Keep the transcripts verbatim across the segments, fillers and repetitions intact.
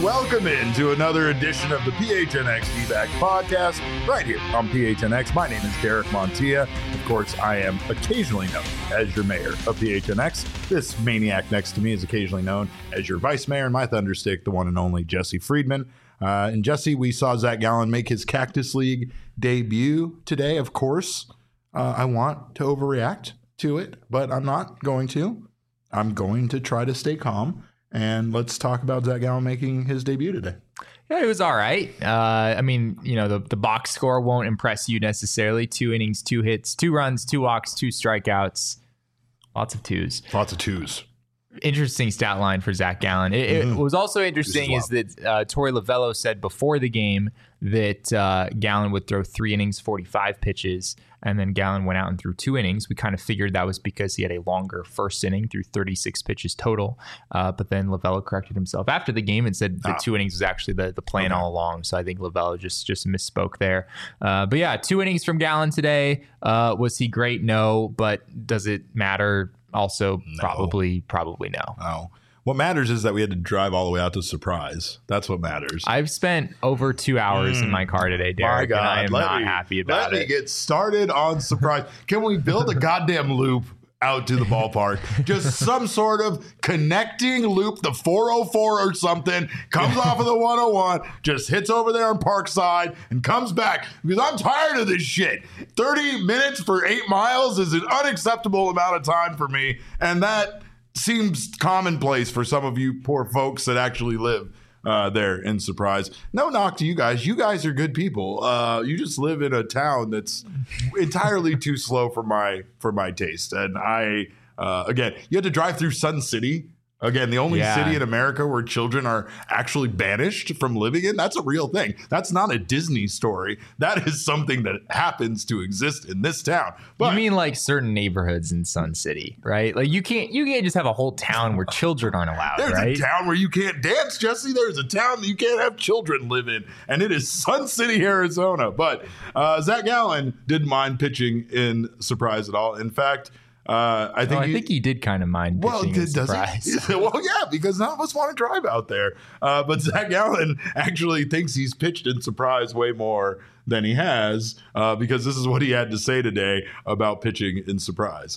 welcome into another edition of the P H N X D-Back podcast right here on P H N X. My name is Derek Montilla. Of course, I am occasionally known as your mayor of P H N X. This maniac next to me is occasionally known as your vice mayor, and my thunderstick, the one and only Jesse Friedman. Uh, and Jesse, we saw Zach Gallen make his Cactus League debut today. Of course, uh, I want to overreact to it, but I'm not going to. I'm going to try to stay calm. And let's talk about Zach Gallen making his debut today. Yeah, it was all right. Uh, I mean, you know, the, the box score won't impress you necessarily. Two innings, two hits, two runs, two walks, two strikeouts. Lots of twos. Lots of twos. Interesting stat line for Zach Gallen. It, mm-hmm. it was also interesting is, is that uh, Torey Lovullo said before the game that uh, Gallen would throw three innings, forty-five pitches, and then Gallen went out and threw two innings. We kind of figured that was because he had a longer first inning, threw thirty-six pitches total. Uh, but then Lovullo corrected himself after the game and said that ah. two innings was actually the, the plan okay. all along. So I think Lovullo just just misspoke there. Uh, but yeah, two innings from Gallen today. Uh, was he great? No. But does it matter? Also, no. probably, probably no. No. What matters is that we had to drive all the way out to Surprise. That's what matters. I've spent over two hours mm. in my car today, Derek, my God. and I am let not me, happy about let it. Let me get started on Surprise. Can we build a goddamn loop out to the ballpark? Just some sort of connecting loop, the four oh four or something, comes off of the one oh one, just hits over there on Parkside and comes back, because I'm tired of this shit. thirty minutes for eight miles is an unacceptable amount of time for me, and that seems commonplace for some of you poor folks that actually live uh, there in Surprise. No knock to you guys. You guys are good people. Uh, you just live in a town that's entirely too slow for my for my taste. And I, uh, again, you had to drive through Sun City. Again, the only yeah. city in America where children are actually banished from living in. That's a real thing. That's not a Disney story. That is something that happens to exist in this town. But you mean like certain neighborhoods in Sun City, right? Like you can't you can't just have a whole town where children aren't allowed, There's right? a town where you can't dance, Jesse. There's a town that you can't have children live in, and it is Sun City, Arizona. But uh, Zach Gallen didn't mind pitching in Surprise at all. In fact, Uh, I think oh, I he, think he did kind of mind well, pitching in Surprise. He? Well, yeah, because none of us want to drive out there. Uh, but Zach Gallen actually thinks he's pitched in Surprise way more than he has, uh, because this is what he had to say today about pitching in Surprise.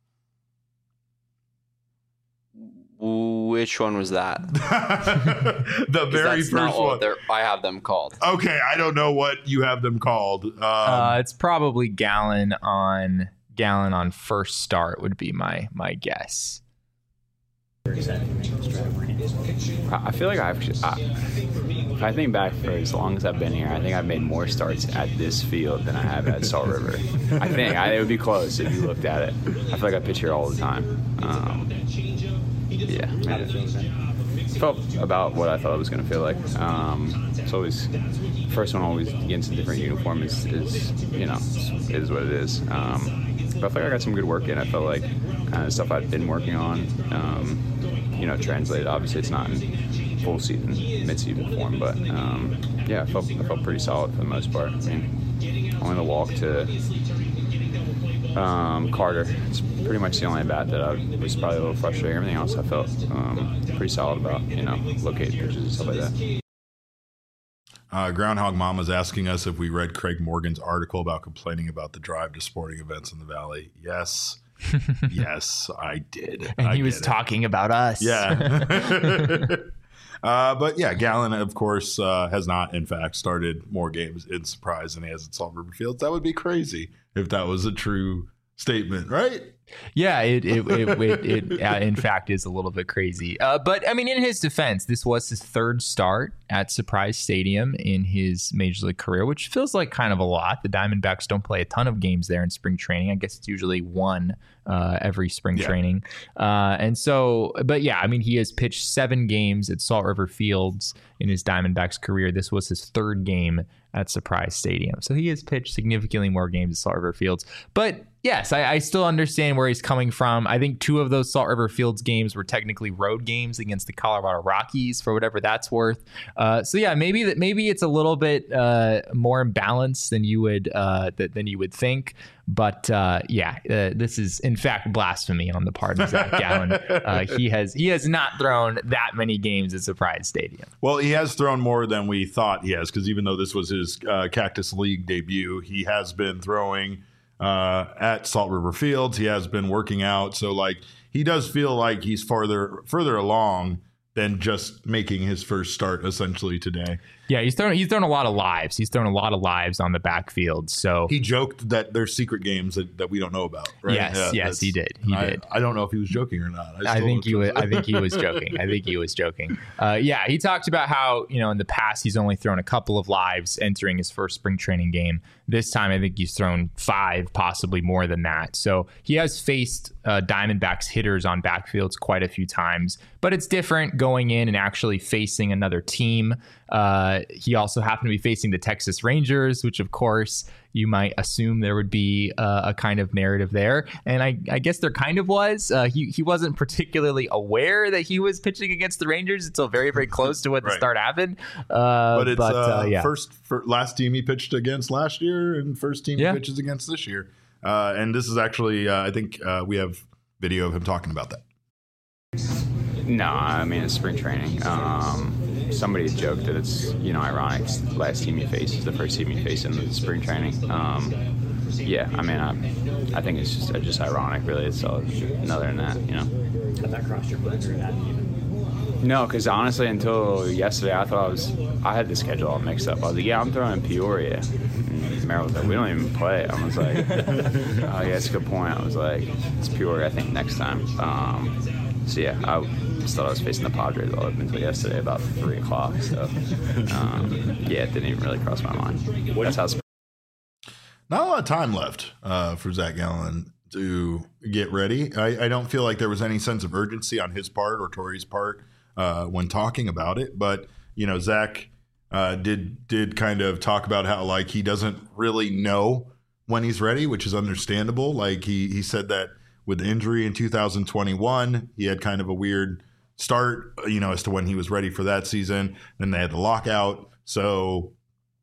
Which one was that? The very that's first not one. What I have them called. Okay, I don't know what you have them called. Um, uh, it's probably Gallen on... Gallen on first start would be my my guess. I feel like I've, I, if I think back for as long as I've been here, I think I've made more starts at this field than I have at Salt River. I think I, it would be close if you looked at it. I feel like I pitch here all the time. Um, yeah, man, it felt about what I thought it was going to feel like. Um, it's always first one always against a different uniform is, is you know is what it is. Um, But I feel like I got some good work in. I felt like kind of stuff I've been working on, um, you know, translated. Obviously, it's not in full season, mid-season form, but um, yeah, I felt I felt pretty solid for the most part. I mean, only the walk to um, Carter. It's pretty much the only bat that I was probably a little frustrating. Everything else I felt um, pretty solid about, you know, locating pitches and stuff like that. Uh, Groundhog Mama's asking us if we read Craig Morgan's article about complaining about the drive to sporting events in the Valley. Yes. Yes, I did. And I he was it. talking about us. Yeah. uh, but yeah, Gallen, of course, uh, has not, in fact, started more games in Surprise than he has at Salt River Fields. That would be crazy if that was a true statement, right? Yeah, it it it, it, it uh, in fact is a little bit crazy. Uh, but I mean, in his defense, this was his third start at Surprise Stadium in his major league career, which feels like kind of a lot. The Diamondbacks don't play a ton of games there in spring training. I guess it's usually one uh, every spring yeah. training. Uh, and so, but yeah, I mean, he has pitched seven games at Salt River Fields in his Diamondbacks career. This was his third game at Surprise Stadium. So he has pitched significantly more games at Salt River Fields. But Yes, I, I still understand where he's coming from. I think two of those Salt River Fields games were technically road games against the Colorado Rockies, for whatever that's worth. Uh, so yeah, maybe that maybe it's a little bit uh, more imbalanced than you would uh, th- than you would think. But uh, yeah, uh, this is in fact blasphemy on the part of Zach Gallen. Uh, he has he has not thrown that many games at Surprise Stadium. Well, he has thrown more than we thought he has, because even though this was his uh, Cactus League debut, he has been throwing uh, at Salt River Fields. He has been working out, so like he does feel like he's farther further along than just making his first start essentially today. Yeah, he's thrown he's thrown a lot of lives. He's thrown a lot of lives on the backfield. So he joked that there's secret games that, that we don't know about, right? Yes, yeah, yes, he did. He I, did. I don't know if he was joking or not. I, I think he was. I think he was joking. I think he was joking. Uh, yeah, he talked about how, you know, in the past he's only thrown a couple of lives entering his first spring training game. This time, I think he's thrown five, possibly more than that. So he has faced uh, Diamondbacks hitters on backfields quite a few times, but it's different going in and actually facing another team. Uh, he also happened to be facing the Texas Rangers, which of course you might assume there would be uh, a kind of narrative there. And I, I guess there kind of was. Uh, he, he wasn't particularly aware that he was pitching against the Rangers until very, very close to when right. the start happened. Uh, but it's but, uh, uh, yeah. first for last team he pitched against last year and first team yeah. he pitches against this year. Uh, and this is actually, uh, I think uh, we have video of him talking about that. No, I mean, it's spring training. Um, somebody joked that it's, you know, ironic. The last team you face is the first team you face in the spring training. Um, yeah, I mean, I, I think it's just just ironic, really. It's all, other than that, you know. Had that crossed your mind or hadn't even? No, because honestly, until yesterday, I thought I was, I had the schedule all mixed up. I was like, yeah, I'm throwing in Peoria. And Merrill was like, we don't even play. I was like, oh, yeah, that's a good point. I was like, it's Peoria, I think, next time. Um, so, yeah, I just thought I was facing the Padres all up until yesterday about three o'clock. So, um, yeah, it didn't even really cross my mind. That's how. Not a lot of time left uh, for Zach Gallen to get ready. I, I don't feel like there was any sense of urgency on his part or Tori's part uh, when talking about it. But, you know, Zach uh, did did kind of talk about how, like, he doesn't really know when he's ready, which is understandable. Like, he, he said that with the injury in two thousand twenty-one, he had kind of a weird start, you know, as to when he was ready for that season. Then they had the lockout. So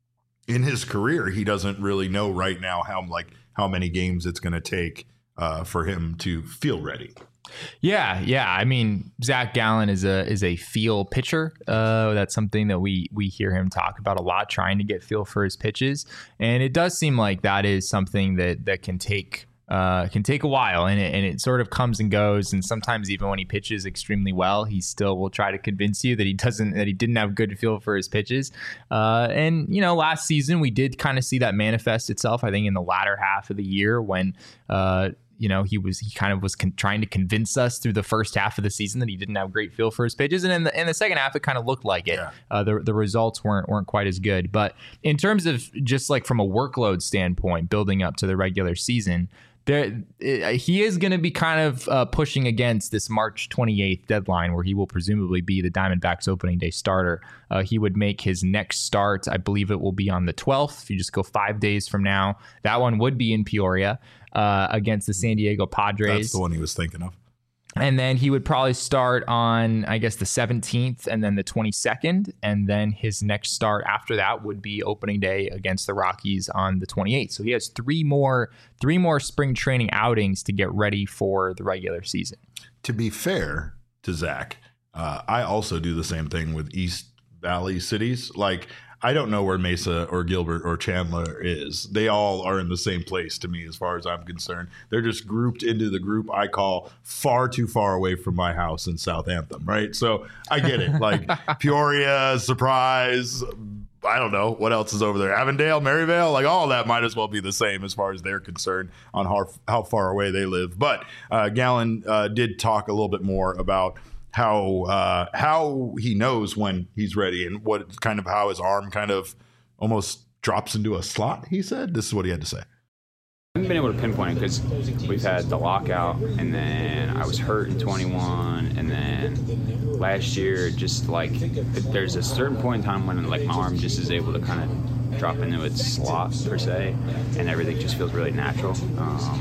in his career, he doesn't really know right now how like how many games it's going to take uh, for him to feel ready. Yeah, yeah. I mean, Zach Gallen is a is a feel pitcher. Uh, that's something that we we hear him talk about a lot, trying to get feel for his pitches, and it does seem like that is something that that can take. Uh, can take a while, and it, and it sort of comes and goes. And sometimes even when he pitches extremely well, he still will try to convince you that he doesn't, that he didn't have good feel for his pitches. Uh, and, you know, last season we did kind of see that manifest itself, I think, in the latter half of the year when, uh, you know, he was he kind of was con- trying to convince us through the first half of the season that he didn't have great feel for his pitches, and in the in the second half it kind of looked like it. Yeah. Uh, the the results weren't weren't quite as good. But in terms of just like from a workload standpoint, building up to the regular season, there he is going to be kind of uh, pushing against this March twenty-eighth deadline, where he will presumably be the Diamondbacks opening day starter. Uh, he would make his next start, I believe it will be on the twelfth. If you just go five days from now, that one would be in Peoria uh, against the San Diego Padres. That's the one he was thinking of. And then he would probably start on, I guess, the seventeenth and then the twenty-second. And then his next start after that would be opening day against the Rockies on the twenty-eighth. So he has three more three more spring training outings to get ready for the regular season. To be fair to Zach, uh, I also do the same thing with East Valley cities. Like, I don't know where Mesa or Gilbert or Chandler is. They all are in the same place to me as far as I'm concerned. They're just grouped into the group I call far too far away from my house in South Anthem, right? So I get it. Like Peoria, Surprise, I don't know what else is over there. Avondale, Maryvale, like all of that might as well be the same as far as they're concerned on how, how far away they live. But uh, Gallen uh, did talk a little bit more about how uh, how he knows when he's ready and what kind of how his arm kind of almost drops into a slot, he said. This is what he had to say. I haven't been able to pinpoint it because we've had the lockout, and then I was hurt in twenty-one, and then last year, just like there's a certain point in time when like my arm just is able to kind of drop into its slot per se, and everything just feels really natural. Um,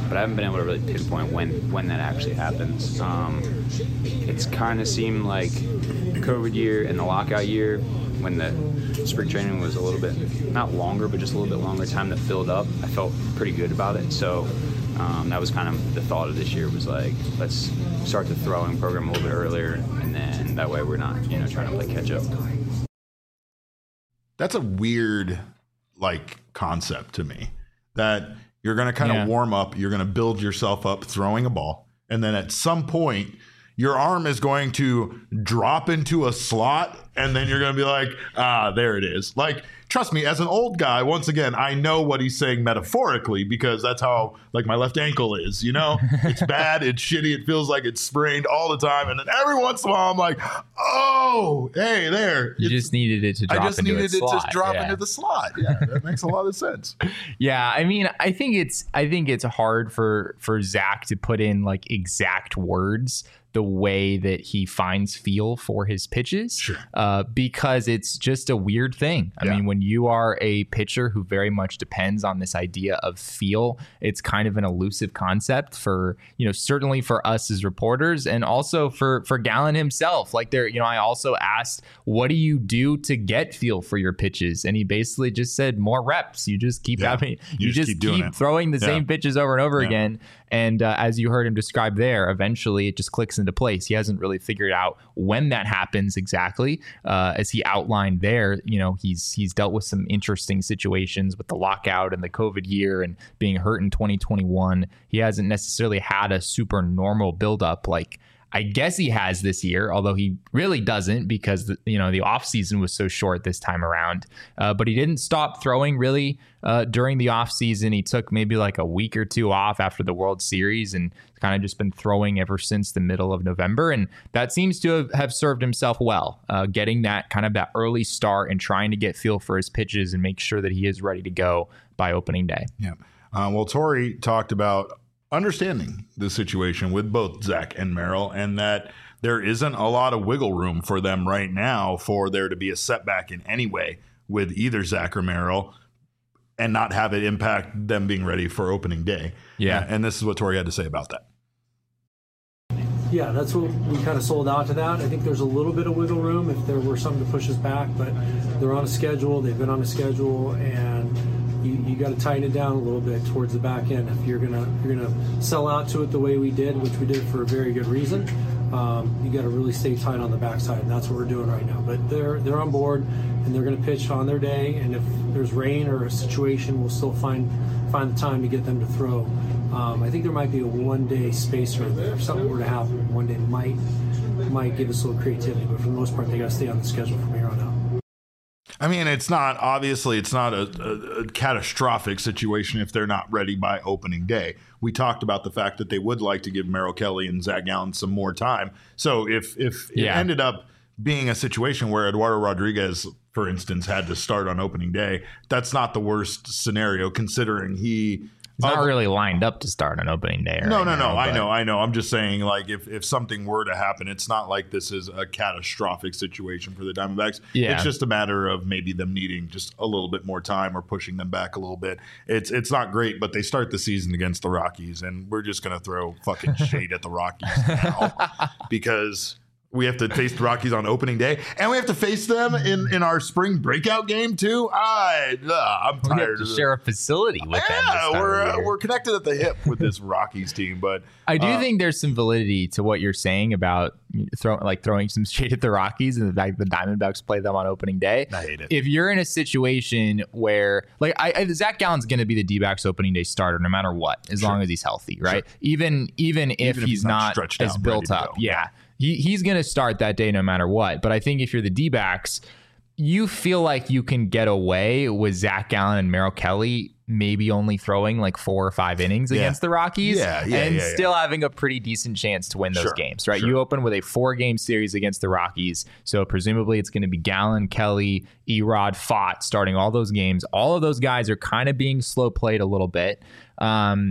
but I haven't been able to really pinpoint when when that actually happens. Um, it's kind of seemed like the COVID year and the lockout year, when the spring training was a little bit, not longer, but just a little bit longer time that filled up. I felt pretty good about it. So um, that was kind of the thought of this year, was like, let's start the throwing program a little bit earlier, and then that way we're not, you know, trying to play catch up. That's a weird, like, concept to me, that you're going to kind of Yeah. warm up, you're going to build yourself up throwing a ball, and then at some point your arm is going to drop into a slot, and then you're going to be like, ah, there it is. Like, trust me, as an old guy, once again, I know what he's saying metaphorically, because that's how, like, my left ankle is, you know? It's bad, it's shitty, it feels like it's sprained all the time, and then every once in a while I'm like, oh, hey, there. You It's- just needed it to drop I just into needed a it slot. to drop yeah. into the slot. Yeah, that makes a lot of sense. Yeah, I mean, I think it's I think it's hard for for Zach to put in like exact words the way that he finds feel for his pitches, Sure. uh, because it's just a weird thing. I Yeah. mean, when you are a pitcher who very much depends on this idea of feel, it's kind of an elusive concept for, you know, certainly for us as reporters, and also for for Gallen himself. Like, there, you know, I also asked, what do you do to get feel for your pitches? And he basically just said, more reps. You just keep Yeah. having, You you, just just keep keep, doing it. throwing the Yeah. same pitches over and over Yeah. again. And uh, as you heard him describe there, eventually it just clicks into place. He hasn't really figured out when that happens exactly. Uh, as he outlined there, you know, he's he's dealt with some interesting situations with the lockout and the COVID year and being hurt in twenty twenty-one. He hasn't necessarily had a super normal buildup like I guess he has this year, although he really doesn't, because the, you know the offseason was so short this time around. Uh, but he didn't stop throwing really uh, during the offseason. He took maybe like a week or two off after the World Series and kind of just been throwing ever since the middle of November. And that seems to have, have served himself well, uh, getting that kind of that early start and trying to get feel for his pitches and make sure that he is ready to go by opening day. Yeah. Uh, well, Torey talked about understanding the situation with both Zach and Merrill, and that there isn't a lot of wiggle room for them right now for there to be a setback in any way with either Zach or Merrill, and not have it impact them being ready for opening day. Yeah. And this is what Torey had to say about that. Yeah, that's what we kind of sold out to that. I think there's a little bit of wiggle room if there were something to push us back, but they're on a schedule. They've been on a schedule, and you, you got to tighten it down a little bit towards the back end if you're gonna if you're gonna sell out to it the way we did, which we did for a very good reason. Um, you got to really stay tight on the backside, and that's what we're doing right now. But they're they're on board, and they're going to pitch on their day. And if there's rain or a situation, we'll still find find the time to get them to throw. Um, I think there might be a one-day spacer there. If something were to happen, one day might might give us a little creativity. But for the most part, they got to stay on the schedule from here on out. I mean, it's not, obviously, it's not a, a, a catastrophic situation if they're not ready by opening day. We talked about the fact that they would like to give Merrill Kelly and Zach Gallen some more time. So if, if it Yeah. ended up being a situation where Eduardo Rodriguez, for instance, had to start on opening day, that's not the worst scenario, considering he... He's not of- really lined up to start on opening day. No, right no, no. now, I but- know, I know. I'm just saying, like, if, if something were to happen, it's not like this is a catastrophic situation for the Diamondbacks. Yeah. It's just a matter of maybe them needing just a little bit more time or pushing them back a little bit. It's it's not great, but they start the season against the Rockies, and we're just gonna throw fucking shade at the Rockies now because we have to face the Rockies on opening day, and we have to face them in, in our spring breakout game too. I, uh, I'm We have tired to of it. share a facility with them. this Yeah, time we're of uh, year. we're connected at the hip with this Rockies team, but I do uh, think there's some validity to what you're saying about throwing like throwing some shade at the Rockies and the fact that the Diamondbacks play them on opening day. I hate it. If you're in a situation where like I, I Zach Gallen's going to be the D-backs opening day starter no matter what, as long as he's healthy, right? Even even if Even if he's, he's not not, stretched as out and built ready to up, go. yeah, he he's going to start that day no matter what. But I think if you're the D-backs, you feel like you can get away with Zach Gallen and Merrill Kelly maybe only throwing like four or five innings Yeah. against the Rockies Yeah, yeah, and yeah, yeah. still having a pretty decent chance to win those Sure, games, right? sure. You open with a four-game series against the Rockies, so presumably it's going to be Gallen, Kelly, Erod, Fott starting all those games. All of those guys are kind of being slow played a little bit. Um,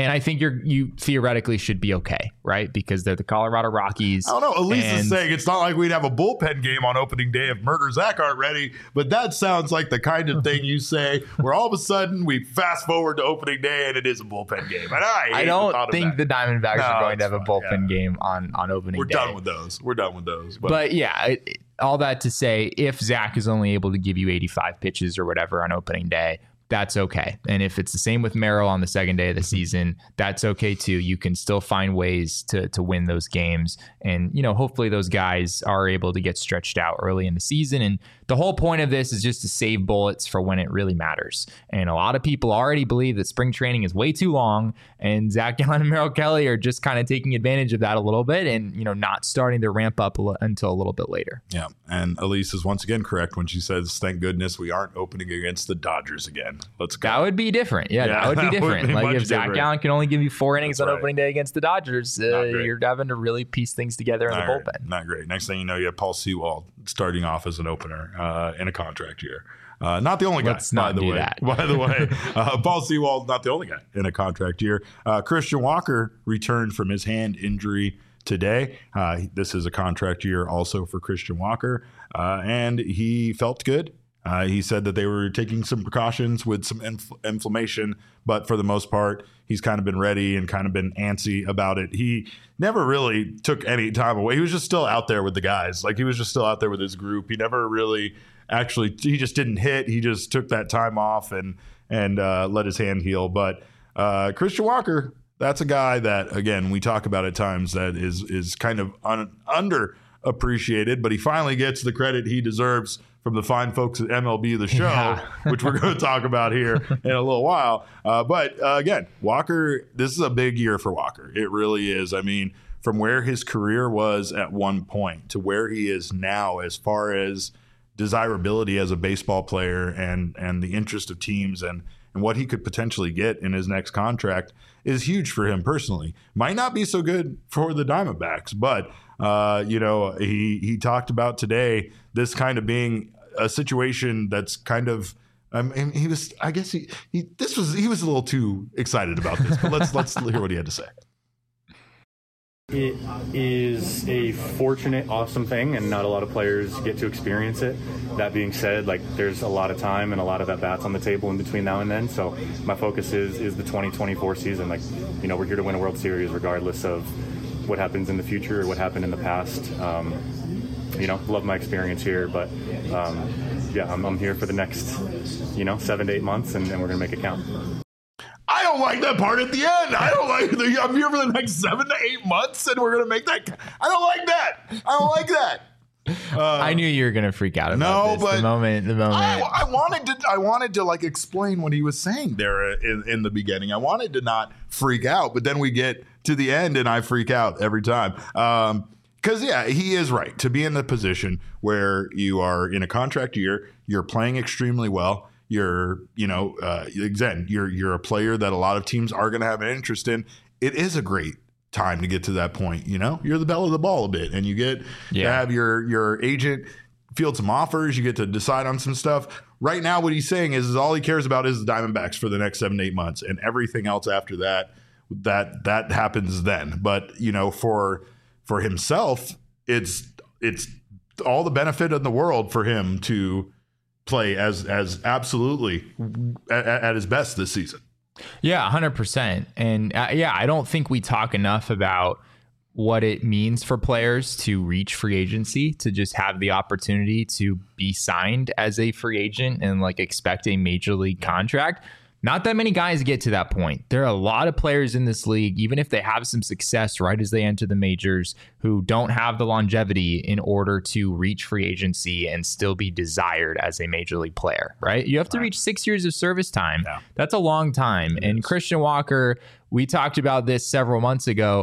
And I think you're you theoretically should be okay, right? Because they're the Colorado Rockies. I don't know. Elise and, is saying it's not like we'd have a bullpen game on opening day if Murder Zach aren't ready. But that sounds like the kind of thing you say where all of a sudden we fast forward to opening day and it is a bullpen game. And I, I don't think the Diamondbacks no, are going to have fine. a bullpen yeah. game on, on opening We're day. We're done with those. We're done with those. But, but yeah, it, it, all that to say, if Zach is only able to give you eighty-five pitches or whatever on opening day, that's okay. And if it's the same with Merrill on the second day of the season, that's okay too. You can still find ways to to win those games. And, you know, hopefully those guys are able to get stretched out early in the season. And the whole point of this is just to save bullets for when it really matters. And a lot of people already believe that spring training is way too long, and Zach Gallen and Merrill Kelly are just kind of taking advantage of that a little bit and, you know, not starting to ramp up a l- until a little bit later. Yeah. And Elise is once again correct when she says, thank goodness we aren't opening against the Dodgers again. Let's go. That would be different. Yeah, Yeah, that would be that would different. be like much if Zach different. Gallen can only give you four innings That's on right. opening day against the Dodgers, uh, you're having to really piece things together in Not the great. bullpen. Not great. Next thing you know, you have Paul Sewald starting off as an opener uh, in a contract year. Uh, not the only guy, Let's not by the do way. that. By the way, uh, Paul Sewald, not the only guy in a contract year. Uh, Christian Walker returned from his hand injury today. Uh, this is a contract year also for Christian Walker, uh, and he felt good. Uh, he said that they were taking some precautions with some infl- inflammation, but for the most part, he's kind of been ready and kind of been antsy about it. He never really took any time away. He was just still out there with the guys. Like he was just still out there with his group. He never really actually, he just didn't hit. He just took that time off and, and uh, let his hand heal. But uh, Christian Walker, that's a guy that, again, we talk about at times that is, is kind of un- underappreciated, but he finally gets the credit he deserves from the fine folks at M L B The Show, Yeah. which we're going to talk about here in a little while. Uh, but uh, again, Walker, this is a big year for Walker. It really is. I mean, from where his career was at one point to where he is now, as far as desirability as a baseball player and and the interest of teams and and what he could potentially get in his next contract is huge for him personally. Might not be so good for the Diamondbacks, but uh, you know, he he talked about today this kind of being a situation that's kind of. I mean, he was. I guess he he. This was he was a little too excited about this. But let's let's hear what he had to say. It is a fortunate, awesome thing, and not a lot of players get to experience it. That being said, like there's a lot of time and a lot of at-bats on the table in between now and then. So my focus is is the twenty twenty-four season. Like, you know, we're here to win a World Series regardless of what happens in the future or what happened in the past. Um, you know, love my experience here, but um, yeah, I'm, I'm here for the next, you know, seven to eight months, and, and we're gonna make it count. I don't like that part at the end. I don't like the, I'm here for the next seven to eight months and we're going to make that. I don't like that. I don't like that. Uh, I knew you were going to freak out about no, this. but the moment, the moment. I, I wanted to, I wanted to like explain what he was saying there in, in the beginning. I wanted to not freak out, but then we get to the end and I freak out every time. Um, Because, yeah, he is right to be in the position where you are in a contract year, you're playing extremely well. You're, you know, uh, again, you're you're a player that a lot of teams are going to have an interest in. It is a great time to get to that point. You know, you're the belle of the ball a bit, and you get Yeah. to have your your agent field some offers. You get to decide on some stuff. Right now, what he's saying is, is all he cares about is the Diamondbacks for the next seven to eight months, and everything else after that, that that happens then. But you know, for for himself, it's it's all the benefit in the world for him to play as as absolutely at, at his best this season. Yeah, one hundred percent. And uh, yeah, I don't think we talk enough about what it means for players to reach free agency, to just have the opportunity to be signed as a free agent and like expect a major league contract. Not that many guys get to that point. There are a lot of players in this league, even if they have some success right as they enter the majors, who don't have the longevity in order to reach free agency and still be desired as a major league player, right? You have to reach six years of service time. Yeah. That's a long time. It and is. Christian Walker, we talked about this several months ago.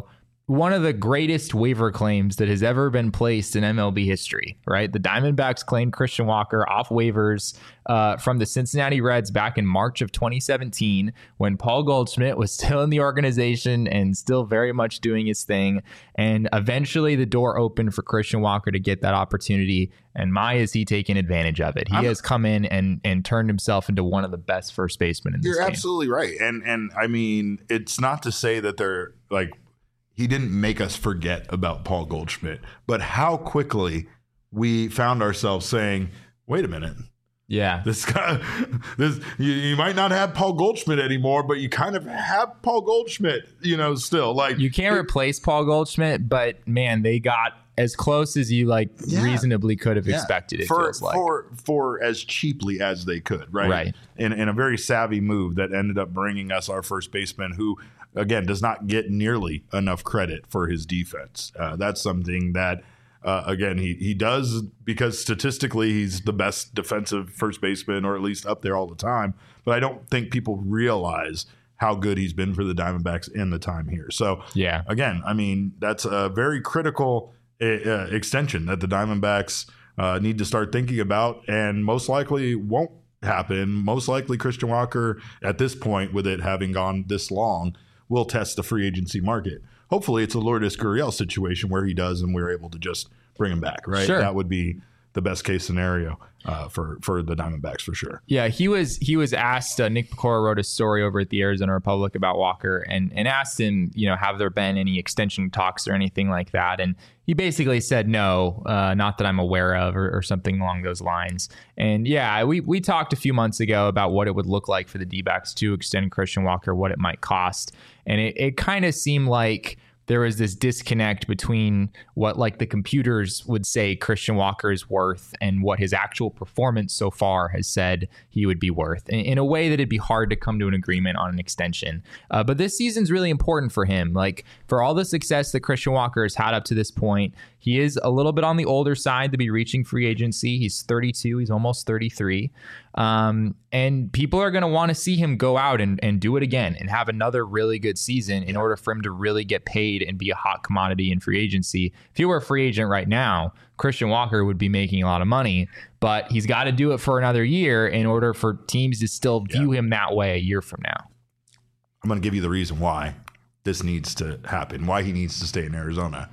one of the greatest waiver claims that has ever been placed in M L B history, right? The Diamondbacks claimed Christian Walker off waivers uh, from the Cincinnati Reds back in March of twenty seventeen when Paul Goldschmidt was still in the organization and still very much doing his thing. And eventually the door opened for Christian Walker to get that opportunity. And my, is he taking advantage of it? He I'm, has come in and and turned himself into one of the best first basemen in this you're game. You're absolutely right. And, and I mean, it's not to say that they're like, he didn't make us forget about Paul Goldschmidt, but how quickly we found ourselves saying, wait a minute. Yeah. This guy, this you, you might not have Paul Goldschmidt anymore, but you kind of have Paul Goldschmidt, you know, still. Like you can't it, replace Paul Goldschmidt, but man, they got as close as you like yeah. reasonably could have yeah. expected it for, feels like. For, for as cheaply as they could, right? Right. In, in a very savvy move that ended up bringing us our first baseman who, again, does not get nearly enough credit for his defense. Uh, that's something that, uh, again, he, he does because statistically he's the best defensive first baseman, or at least up there all the time. But I don't think people realize how good he's been for the Diamondbacks in the time here. So, yeah, again, I mean, that's a very critical uh, extension that the Diamondbacks uh, need to start thinking about, and most likely won't happen. Most likely Christian Walker, at this point, with it having gone this long, will test the free agency market. Hopefully it's a Lourdes Gurriel situation where he does and we're able to just bring him back, right? Sure. That would be the best case scenario uh, for for the Diamondbacks for sure. Yeah, he was he was asked. Uh, Nick Pecora wrote a story over at the Arizona Republic about Walker and and asked him, you know, have there been any extension talks or anything like that? And he basically said no, uh, not that I'm aware of, or, or something along those lines. And yeah, we we talked a few months ago about what it would look like for the D-backs to extend Christian Walker, what it might cost, and it, it kind of seemed like there was this disconnect between what like the computers would say Christian Walker is worth and what his actual performance so far has said he would be worth, in, in a way that it'd be hard to come to an agreement on an extension. Uh, but this season's really important for him. Like, for all the success that Christian Walker has had up to this point, he is a little bit on the older side to be reaching free agency. He's thirty-two. He's almost thirty-three. Um, and people are going to want to see him go out and, and do it again and have another really good season in order for him to really get paid and be a hot commodity in free agency. If he were a free agent right now, Christian Walker would be making a lot of money, but he's got to do it for another year in order for teams to still view yeah. him that way a year from now. I'm going to give you the reason why this needs to happen, why he needs to stay in Arizona.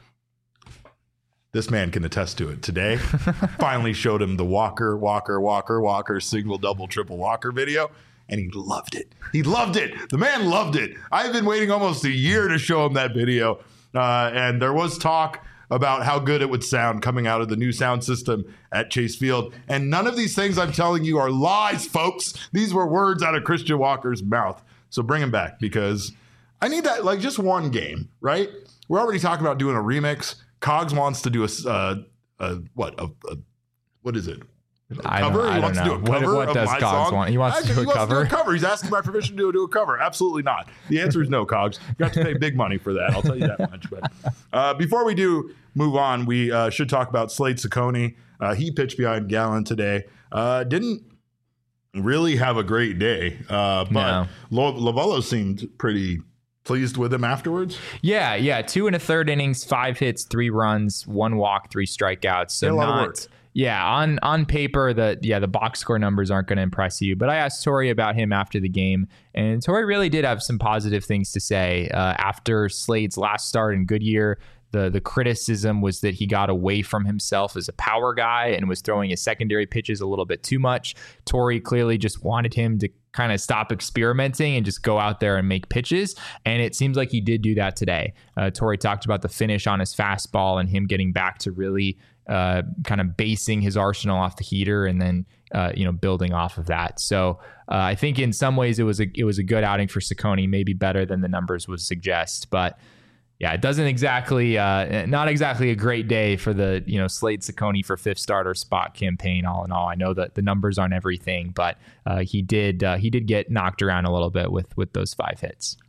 This man can attest to it. Today, finally showed him the Walker, Walker, Walker, Walker, single, double, triple Walker video, and he loved it. He loved it. The man loved it. I've been waiting almost a year to show him that video, uh, and there was talk about how good it would sound coming out of the new sound system at Chase Field, and none of these things I'm telling you are lies, folks. These were words out of Christian Walker's mouth. So bring him back, because I need that, like, just one game, right? We're already talking about doing a remix. Cogs wants to do a, uh, a what? A, a, what is it? A I cover? Don't, I he wants don't to know. do a cover What, what of does my Cogs song? want? He wants Actually, to do a he wants cover? To do a cover. He's asking my permission to do a cover. Absolutely not. The answer is no, Cogs. You have to pay big money for that. I'll tell you that much. But uh, before we do move on, we uh, should talk about Slade Cecconi. Uh, he pitched behind Gallen today. Uh, didn't really have a great day, uh, but No. Lo- Lovello seemed pretty pleased with him afterwards. Yeah, yeah. Two and a third innings, five hits, three runs, one walk, three strikeouts. So Yeah, a lot not, of work. yeah, on on paper, the yeah the box score numbers aren't going to impress you. But I asked Tori about him after the game, and Tori really did have some positive things to say uh, after Slade's last start in Goodyear. The the criticism was that he got away from himself as a power guy and was throwing his secondary pitches a little bit too much. Tori clearly just wanted him to kind of stop experimenting and just go out there and make pitches. And it seems like he did do that today. Uh, Tori talked about the finish on his fastball and him getting back to really uh, kind of basing his arsenal off the heater and then uh, you know building off of that. So uh, I think in some ways it was a it was a good outing for Cecconi, maybe better than the numbers would suggest, but. Yeah, it doesn't exactly, uh, not exactly a great day for the, you know, Slade Cecconi for fifth starter spot campaign. All in all, I know that the numbers aren't everything, but uh, he did, uh, he did get knocked around a little bit with with those five hits.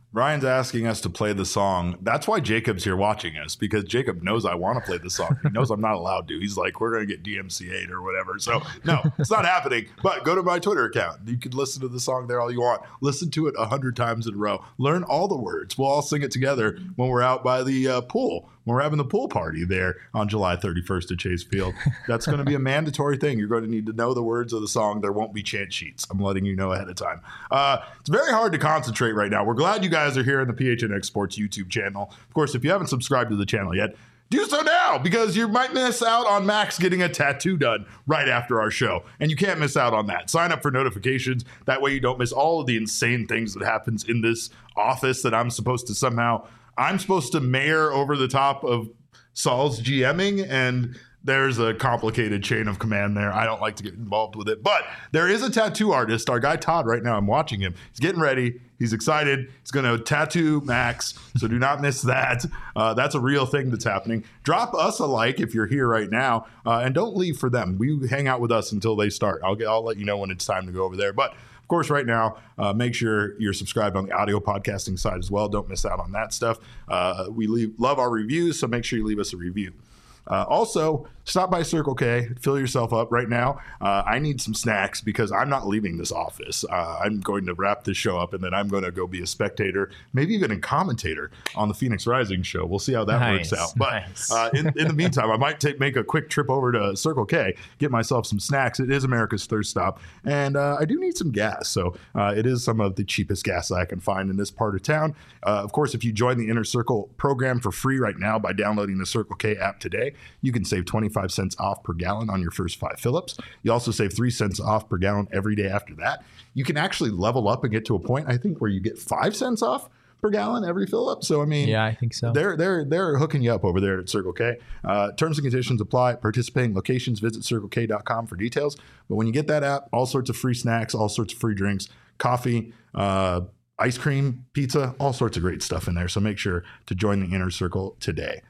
Ryan's asking us to play the song. That's why Jacob's here watching us, because Jacob knows I want to play the song. He knows I'm not allowed to. He's like, we're going to get D M C A'd or whatever. So, no, it's not happening. But go to my Twitter account. You can listen to the song there all you want. Listen to it a hundred times in a row. Learn all the words. We'll all sing it together when we're out by the uh, pool. When we're having the pool party there on July thirty-first at Chase Field. That's going to be a mandatory thing. You're going to need to know the words of the song. There won't be chant sheets. I'm letting you know ahead of time. Uh, it's very hard to concentrate right now. We're glad you guys are here in the P H N X Sports YouTube channel. Of course, if you haven't subscribed to the channel yet, do so now, because you might miss out on Max getting a tattoo done right after our show. And you can't miss out on that. Sign up for notifications. That way you don't miss all of the insane things that happens in this office that I'm supposed to somehow... I'm supposed to mayor over the top of Saul's GMing, and there's a complicated chain of command there. I don't like to get involved with it. But there is a tattoo artist, our guy Todd, right now. I'm watching him. He's getting ready. He's excited. He's going to tattoo Max, so do not miss that. Uh, that's a real thing that's happening. Drop us a like if you're here right now, uh, and don't leave for them. We hang out with us until they start. I'll, get, I'll let you know when it's time to go over there. But of course, right now, uh, make sure you're subscribed on the audio podcasting side as well. Don't miss out on that stuff. Uh, we leave, love our reviews, so make sure you leave us a review. Uh, also, stop by Circle K, fill yourself up right now. Uh, I need some snacks because I'm not leaving this office. Uh, I'm going to wrap this show up, and then I'm going to go be a spectator, maybe even a commentator on the Phoenix Rising show. We'll see how that nice, works out. But nice. uh, in, in the meantime, I might take make a quick trip over to Circle K, get myself some snacks. It is America's thirst stop, and uh, I do need some gas. So uh, it is some of the cheapest gas I can find in this part of town. Uh, of course, if you join the Inner Circle program for free right now by downloading the Circle K app today, you can save twenty-five cents off per gallon on your first five fill-ups. You also save three cents off per gallon every day after that. You can actually level up and get to a point, I think, where you get five cents off per gallon every fill-up. So, I mean, yeah, I think so. They're they're they're hooking you up over there at Circle K. Uh, terms and conditions apply. Participating locations, visit circle k dot com for details. But when you get that app, all sorts of free snacks, all sorts of free drinks, coffee, uh, ice cream, pizza, all sorts of great stuff in there. So make sure to join the Inner Circle today.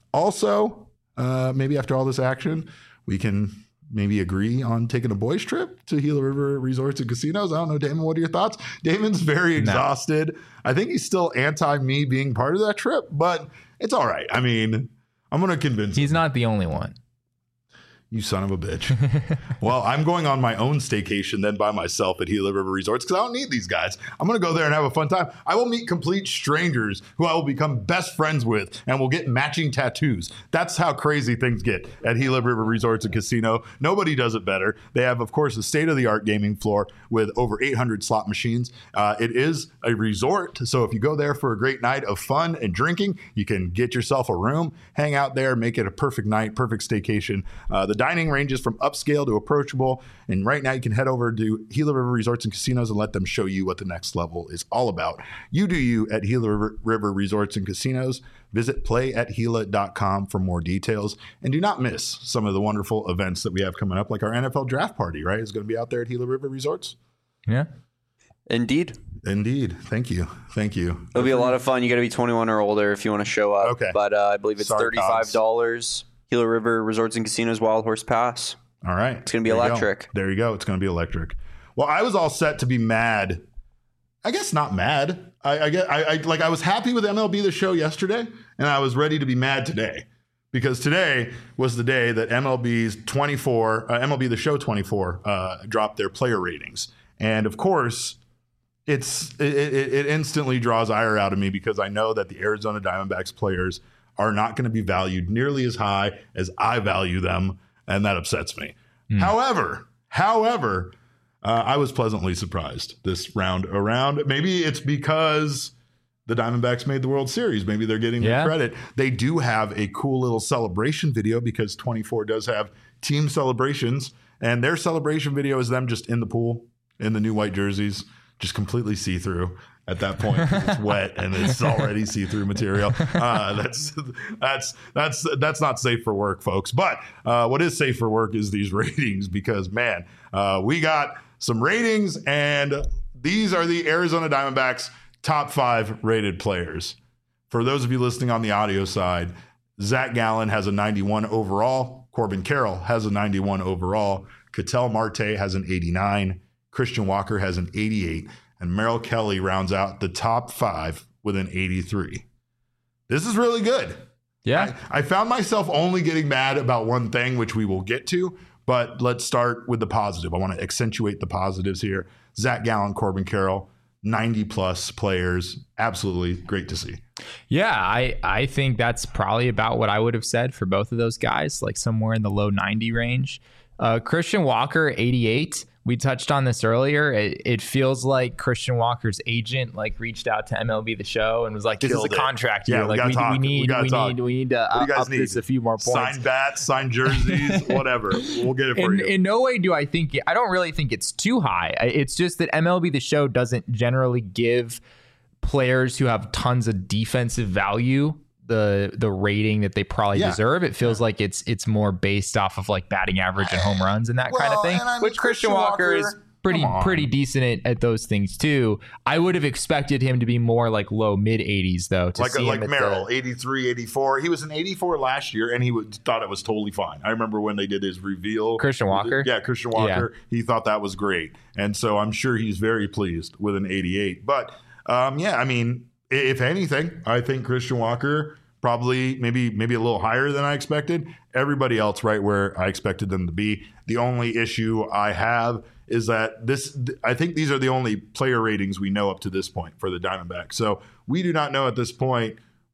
Also, Uh, maybe after all this action, we can maybe agree on taking a boys trip to Gila River Resorts and Casinos. I don't know, Damon, what are your thoughts? Damon's very exhausted. No. I think he's still anti me being part of that trip, but it's all right. I mean, I'm going to convince He's him. not the only one. You son of a bitch. Well, I'm going on my own staycation then by myself at Gila River Resorts because I don't need these guys. I'm going to go there and have a fun time. I will meet complete strangers who I will become best friends with and will get matching tattoos. That's how crazy things get at Gila River Resorts and Casino. Nobody does it better. They have, of course, a state-of-the-art gaming floor with over eight hundred slot machines. Uh, it is a resort, so if you go there for a great night of fun and drinking, you can get yourself a room, hang out there, make it a perfect night, perfect staycation. Uh, the dining ranges from upscale to approachable. And right now you can head over to Gila River Resorts and Casinos and let them show you what the next level is all about. You do you at Gila River, River Resorts and Casinos. Visit play at gila dot com for more details. And do not miss some of the wonderful events that we have coming up, like our N F L draft party, right? It's going to be out there at Gila River Resorts. Yeah. Indeed. Indeed. Thank you. Thank you. It'll be a lot of fun. You got to be twenty-one or older if you want to show up. Okay. But uh, I believe it's Sorry, thirty-five dollars. Gila River Resorts and Casinos Wild Horse Pass. All right. It's going to be There you electric. go. There you go. It's going to be electric. Well, I was all set to be mad. I guess not mad. I, I get. I, I like. I was happy with M L B The Show yesterday, and I was ready to be mad today because today was the day that M L B's twenty-four, uh, M L B The Show twenty-four, uh, dropped their player ratings, and of course, it's it, it, it instantly draws ire out of me because I know that the Arizona Diamondbacks players are not going to be valued nearly as high as I value them, and that upsets me. Mm. However, however, uh, I was pleasantly surprised this round around. Maybe it's because the Diamondbacks made the World Series. Maybe they're getting yeah. the credit. They do have a cool little celebration video because twenty-four does have team celebrations, and their celebration video is them just in the pool in the new white jerseys, just completely see-through. At that point, it's wet and it's already see-through material. Uh, that's that's that's that's not safe for work, folks. But uh, what is safe for work is these ratings because, man, uh, we got some ratings, and these are the Arizona Diamondbacks top five rated players. For those of you listening on the audio side, Zach Gallen has a ninety-one overall. Corbin Carroll has a ninety-one overall. Ketel Marte has an eighty-nine. Christian Walker has an eighty-eight. And Merrill Kelly rounds out the top five with an eighty-three. This is really good. Yeah. I, I found myself only getting mad about one thing, which we will get to, but let's start with the positive. I want to accentuate the positives here. Zach Gallen, Corbin Carroll, ninety plus players. Absolutely great to see. Yeah, I, I think that's probably about what I would have said for both of those guys, like somewhere in the low ninety range. Uh, Christian Walker, eighty-eight. We touched on this earlier. It, it feels like Christian Walker's agent like reached out to M L B The Show and was like, "This Killed is a it. contract Yeah, year. we Like gotta we, talk. we need, We gotta we, talk. need, we need to What do you up, guys up need? this a few more points." Sign bats, sign jerseys, whatever. We'll get it for in, you. in no way do I think I don't really think it's too high. I- It's just that M L B The Show doesn't generally give players who have tons of defensive value the the rating that they probably Yeah. deserve. It feels like it's it's more based off of like batting average and home runs and that kind of Well, thing. and I mean, Which Christian, Christian Walker, is Walker, pretty come on. pretty decent at, at those things too. I would have expected him to be more like low mid eighties though. To like see like him at Merrill, the, eighty-three, eighty-four. He was an eighty-four last year, and he would, thought it was totally fine. I remember when they did his reveal. Christian Walker? Yeah, Christian Walker. He thought that was great. And so I'm sure he's very pleased with an eighty-eight. But, um, yeah, I mean, i- if anything, I think Christian Walker probably maybe maybe a little higher than I expected. Everybody else right where I expected them to be. The only issue I have is that this, I think these are the only player ratings we know up to this point for the Diamondbacks. So we do not know at this point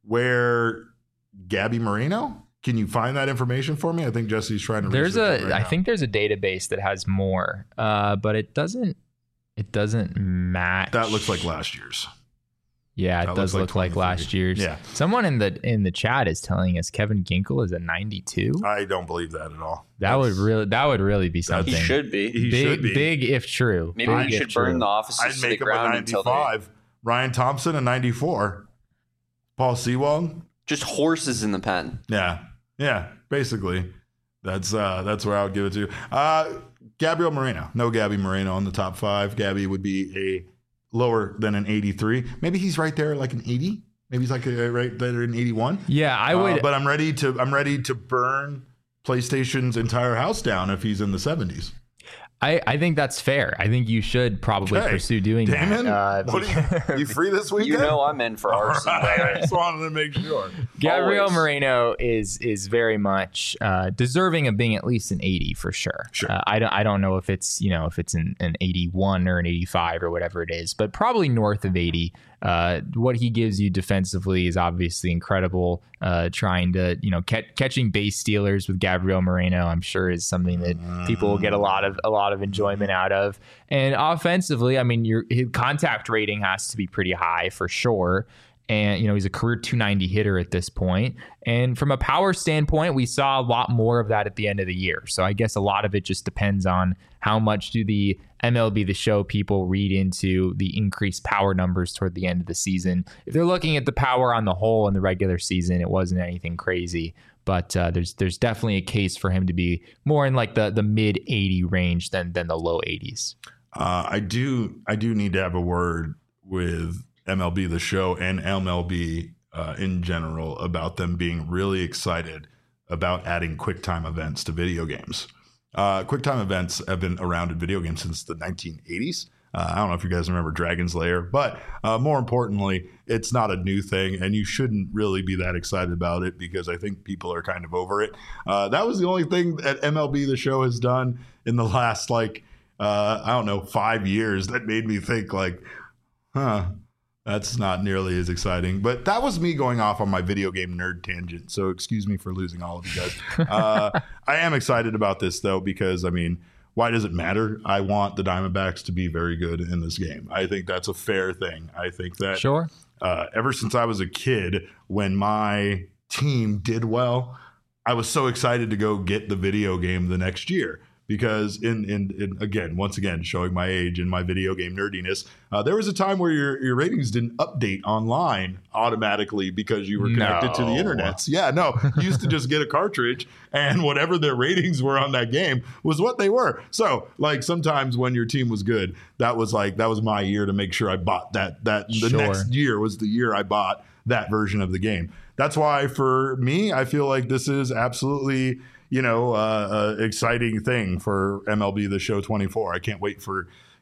where Gabby Moreno. Can you find that information for me? I think Jesse's trying to. there's research it a right I now. think there's a database that has more, uh, but it doesn't it doesn't match. that looks like last year's. Yeah, it That does looks look like like last twenty-three. year's. Yeah. Someone in the in the chat is telling us Kevin Ginkel is a ninety-two. I don't believe that at all. That would That's- really that would really be something. He should be. He big, should be. big if true. Maybe big we if should burn true. the offices I'd to the make him a ground until they ninety-five. Ryan Thompson a ninety-four. Paul Sewald. just horses in the pen. Yeah, yeah. Basically, that's uh, that's where I would give it to. Uh, Gabriel Moreno. No Gabby Moreno on the top five. Gabby would be a lower than an eighty-three. Maybe he's right there, like an eighty. Maybe he's like a, right there in eighty-one. Yeah, I would. Uh, but I'm ready to. I'm ready to burn PlayStation's entire house down if he's in the seventies. I, I think that's fair. I think you should probably Okay. pursue doing Damon, that. Uh, what are you, you free this weekend? You know I'm in for arson. All right, I brother. just wanted to make sure. Gabriel Always. Moreno is is very much uh, deserving of being at least an eighty for sure. Sure. Uh, I don't I don't know if it's you know if it's an, an eighty-one or an eighty-five or whatever it is, but probably north of eighty. Uh, what he gives you defensively is obviously incredible. Uh, trying to you know ca- catching base stealers with Gabriel Moreno, I'm sure is something that people will get a lot of a lot of enjoyment out of. And offensively, I mean, your his contact rating has to be pretty high for sure. And, you know, he's a career two ninety hitter at this point. And from a power standpoint, we saw a lot more of that at the end of the year. So I guess a lot of it just depends on how much do the M L B The Show people read into the increased power numbers toward the end of the season. If they're looking at the power on the whole in the regular season, it wasn't anything crazy. But uh, there's there's definitely a case for him to be more in like the, the mid eighty range than than the low eighties. Uh, I do. I do need to have a word with M L B The Show and M L B uh, in general about them being really excited about adding QuickTime events to video games. Uh, QuickTime events have been around in video games since the nineteen eighties. Uh, I don't know if you guys remember Dragon's Lair, but uh, more importantly, it's not a new thing, and you shouldn't really be that excited about it because I think people are kind of over it. Uh, that was the only thing that M L B The Show has done in the last, like, uh, I don't know, five years that made me think, like, huh, that's not nearly as exciting. But that was me going off on my video game nerd tangent. So excuse me for losing all of you guys. Uh, I am excited about this, though, because, I mean, why does it matter? I want the Diamondbacks to be very good in this game. I think that's a fair thing. I think that Sure. uh, ever since I was a kid, when my team did well, I was so excited to go get the video game the next year. Because in, in, in again, once again, showing my age and my video game nerdiness, uh, there was a time where your, your ratings didn't update online automatically because you were connected to the No. internet. Yeah, no, you used to just get a cartridge and whatever their ratings were on that game was what they were. So like sometimes when your team was good, that was like, that was my year to make sure I bought that, that the Sure. next year was the year I bought that version of the game. That's why for me, I feel like this is absolutely, you know, uh, uh, exciting thing for M L B The Show twenty-four. I can't wait for,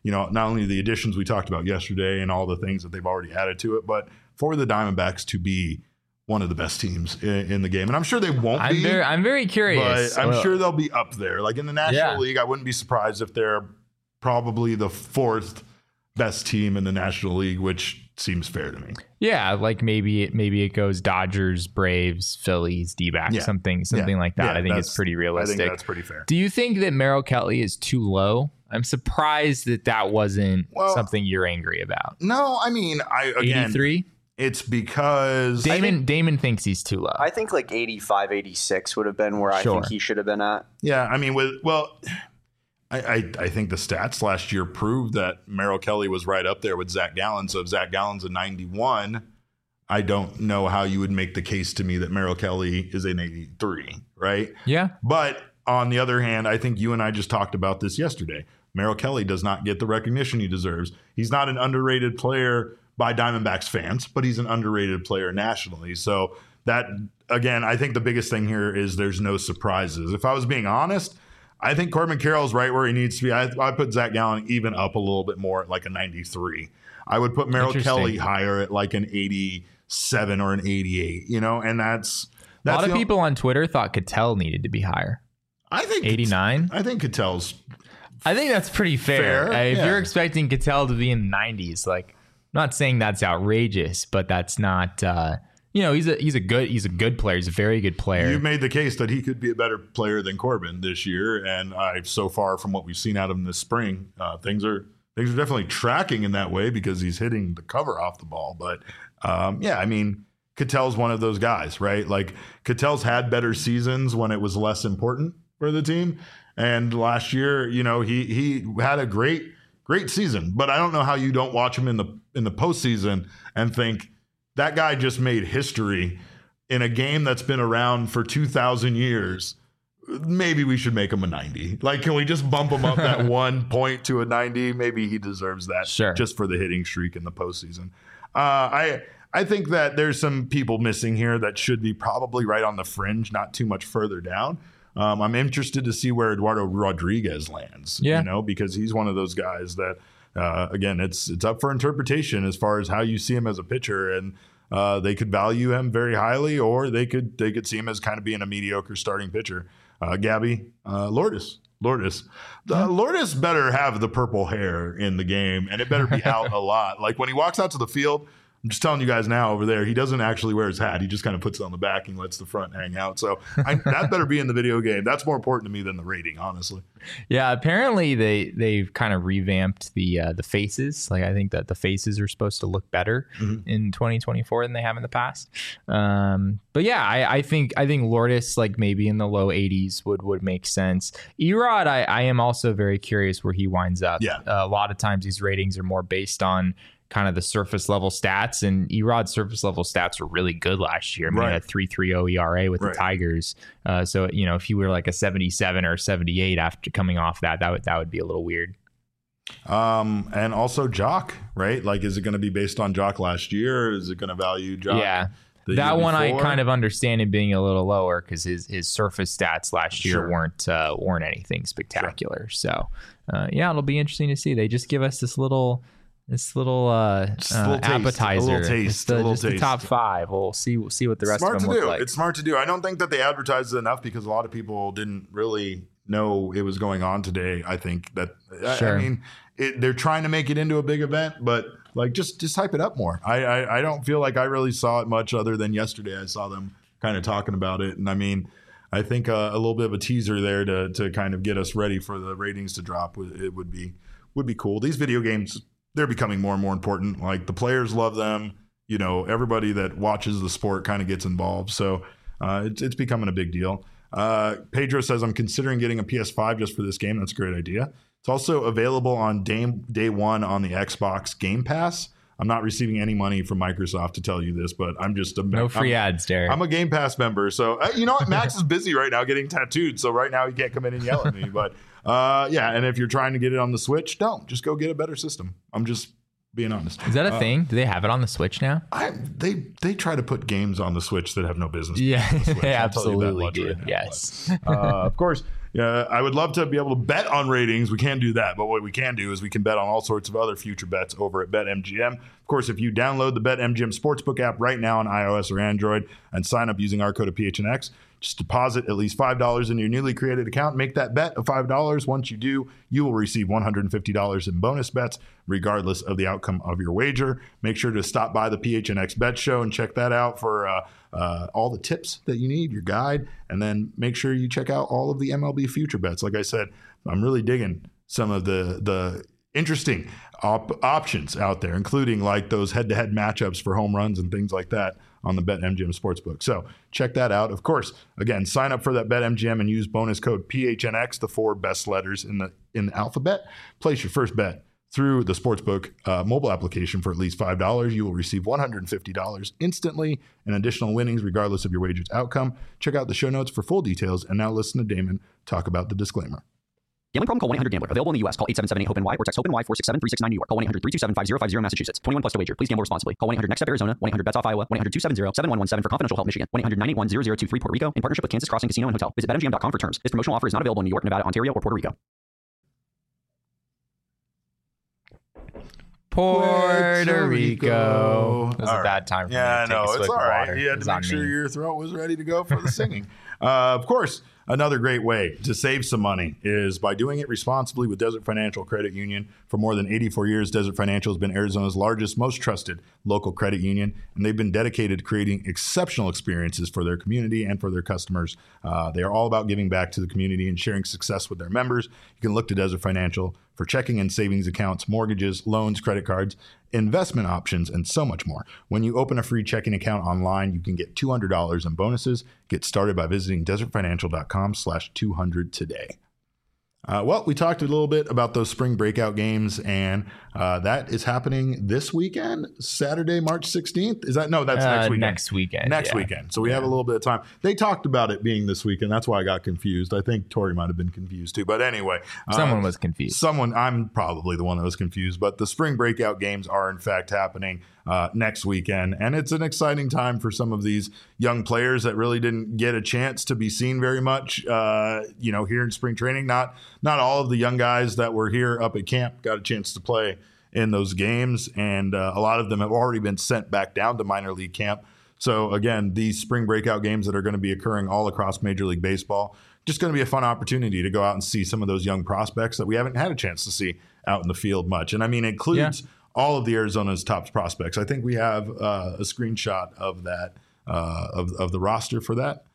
you know, not only the additions we talked about yesterday and all the things that they've already added to it, but for the Diamondbacks to be one of the best teams in, in the game. And I'm sure they won't I'm be. Very, I'm very curious. But I'm well, sure they'll be up there. Like in the National Yeah. League, I wouldn't be surprised if they're probably the fourth best team in the National League, which seems fair to me. Yeah, like maybe it maybe it goes Dodgers, Braves, Phillies, D-backs, Yeah. something something Yeah. like that. Yeah, I think that's- it's pretty I realistic. think that's pretty fair. Do you think that Merrill Kelly is too low? I'm surprised that that wasn't Well, something you're angry about. No, I mean, I again, eighty-three? it's because Damon Damon thinks he's too low. I think like eighty-five, eighty-six would have been where I Sure. think he should have been at. yeah, I mean, with well, I, I I think the stats last year proved that Merrill Kelly was right up there with Zach Gallen. So if Zach Gallen's a ninety-one, I don't know how you would make the case to me that Merrill Kelly is an eighty-three, right? yeah. But on the other hand, I think you and I just talked about this yesterday. Merrill Kelly does not get the recognition he deserves. He's not an underrated player by Diamondbacks fans, but he's an underrated player nationally. So that, again, I think the biggest thing here is there's no surprises. If I was being honest, I think Corbin Carroll's right where he needs to be. I, I put Zach Gallen even up a little bit more at like a ninety-three. I would put Merrill Interesting. Kelly higher at like an eighty-seven or an eighty-eight, you know, and that's, A that's lot of the- people on Twitter thought Cattell needed to be higher. I think eighty-nine? I think Cattell's I think that's pretty fair. Fair, Uh, if yeah. you're expecting Cattell to be in the nineties, like I'm not saying that's outrageous, but that's not uh, you know, he's a he's a good he's a good player. He's a very good player. You made the case that he could be a better player than Corbin this year, and I so far from what we've seen out of him this spring, uh, things are things are definitely tracking in that way because he's hitting the cover off the ball. But um, yeah, I mean, Cattell's one of those guys, right? Like Cattell's had better seasons when it was less important for the team, and last year, you know, he he had a great great season. But I don't know how you don't watch him in the in the postseason and think that guy just made history in a game that's been around for two thousand years. Maybe we should make him a ninety. Like, can we just bump him up that one point to a ninety? Maybe he deserves that Sure. just for the hitting streak in the postseason. Uh, I I think that there's some people missing here that should be probably right on the fringe, not too much further down. Um, I'm interested to see where Eduardo Rodriguez lands, Yeah. you know, because he's one of those guys that, uh, again, it's it's up for interpretation as far as how you see him as a pitcher, and uh, they could value him very highly, or they could they could see him as kind of being a mediocre starting pitcher. Uh, Gabby uh, Lourdes, Lourdes, uh, Lourdes better have the purple hair in the game, and it better be out a lot. Like when he walks out to the field, I'm just telling you guys now over there, he doesn't actually wear his hat. He just kind of puts it on the back and lets the front hang out. So I, that better be in the video game. That's more important to me than the rating, honestly. Yeah, apparently they they've kind of revamped the uh, the faces. Like I think that the faces are supposed to look better Mm-hmm. in twenty twenty-four than they have in the past. Um, but yeah, I, I think I think Lourdes like maybe in the low eighties would would make sense. Erod, I, I am also very curious where he winds up. Yeah. Uh, a lot of times these ratings are more based on kind of the surface level stats, and Erod's surface level stats were really good last year. I mean, Right. he had three point three oh E R A with Right. the Tigers. Uh, so you know, if he were like a seventy-seven or seventy-eight after coming off that, that would that would be a little weird. Um, and also Jock, right? Like, is it going to be based on Jock last year? Or is it going to value Jock? Yeah. the That year one I before? kind of understand it being a little lower because his his surface stats last year Sure. weren't uh, weren't anything spectacular. So uh, yeah, it'll be interesting to see. They just give us this little this little uh, Just a uh, little taste, a appetizer, little taste, Just the, a little just the taste. top five. We'll see we'll see what the rest smart of to them do. look like. It's smart to do. I don't think that they advertised it enough because a lot of people didn't really know it was going on today. I think that I- Sure. I, mean it, they're trying to make it into a big event, but like just just hype it up more. I, I I don't feel like I really saw it much other than yesterday. I saw them kind of talking about it, and I mean, I think uh, a little bit of a teaser there to to kind of get us ready for the ratings to drop. would- It would be would be cool. These video games, they're becoming more and more important. Like the players love them. You know, everybody that watches the sport kind of gets involved. So uh, it's it's becoming a big deal. Uh, Pedro says, I'm considering getting a P S five just for this game. That's a great idea. It's also available on day, day one on the Xbox Game Pass. I'm not receiving any money from Microsoft to tell you this, but I'm just a No free I'm, ads, Derek. I'm a Game Pass member. So, uh, you know what? Max is busy right now getting tattooed. So, right now, he can't come in and yell at me. But, uh, yeah. And if you're trying to get it on the Switch, don't. Just go get a better system. I'm just being honest. Is that a Uh, thing? Do they have it on the Switch now? I, they they try to put games on the Switch that have no business. being Yeah, on the Switch. they I'll tell you that absolutely much do. right now. Yes. But, uh, of course, uh, I would love to be able to bet on ratings. We can't do that, but what we can do is we can bet on all sorts of other future bets over at BetMGM. Of course, if you download the BetMGM Sportsbook app right now on iOS or Android and sign up using our code of P H N X, just deposit at least five dollars in your newly created account. Make that bet of five dollars. Once you do, you will receive one hundred fifty dollars in bonus bets, regardless of the outcome of your wager. Make sure to stop by the P H N X Bet Show and check that out for uh, uh, all the tips that you need, your guide, and then make sure you check out all of the M L B future bets. Like I said, I'm really digging some of the the interesting op- options out there, including like those head-to-head matchups for home runs and things like that on the BetMGM Sportsbook. So check that out. Of course, again, sign up for that BetMGM and use bonus code P H N X, the four best letters in the in the alphabet. Place your first bet through the Sportsbook uh, mobile application for at least five dollars. You will receive one hundred fifty dollars instantly and additional winnings regardless of your wager's outcome. Check out the show notes for full details. And now listen to Damon talk about the disclaimer. Gambling problem? Call one eight hundred gambler. Available in the U S. Call eight seven seven eight hope N Y or text HOPE-NY four six seven three six nine New York. Call one eight hundred three two seven five zero five zero Massachusetts. twenty-one plus to wager. Please gamble responsibly. Call one eight hundred next step Arizona. one eight hundred bets off Iowa. one eight hundred two seven zero seven one one seven for confidential help Michigan. one eight hundred nine eight one zero zero two three Puerto Rico in partnership with Kansas Crossing Casino and Hotel. Visit bet M G M dot com for terms. This promotional offer is not available in New York, Nevada, Ontario, or Puerto Rico. Puerto Rico. It was All a right. bad time for Yeah, me to take no, a it's swig all of right. water. You It had was to make on sure me. your throat was ready to go for the singing. Uh, of course, another great way to save some money is by doing it responsibly with Desert Financial Credit Union. For more than eighty-four years, Desert Financial has been Arizona's largest, most trusted local credit union, and they've been dedicated to creating exceptional experiences for their community and for their customers. Uh, they are all about giving back to the community and sharing success with their members. You can look to Desert Financial for checking and savings accounts, mortgages, loans, credit cards, investment options, and so much more. When you open a free checking account online, you can get two hundred dollars in bonuses. Get started by visiting desert financial dot com slash two hundred today. Uh, well, we talked a little bit about those spring breakout games, and uh, that is happening this weekend, Saturday, March sixteenth. Is that no? That's Uh, next weekend. next weekend, Next yeah. weekend. So we have a little bit of time. They talked about it being this weekend. That's why I got confused. I think Tori might have been confused too. But anyway, Someone uh, was confused. Someone, I'm probably the one that was confused. But the spring breakout games are in fact happening uh, next weekend, and it's an exciting time for some of these young players that really didn't get a chance to be seen very much. Uh, you know, here in spring training, not not all of the young guys that were here up at camp got a chance to play in those games, and uh, a lot of them have already been sent back down to minor league camp. So again, these spring breakout games that are going to be occurring all across Major League Baseball, just going to be a fun opportunity to go out and see some of those young prospects that we haven't had a chance to see out in the field much. And I mean, it includes Yeah. all of the Arizona's top prospects. I think we have uh, a screenshot of that, uh, of, of the roster for that.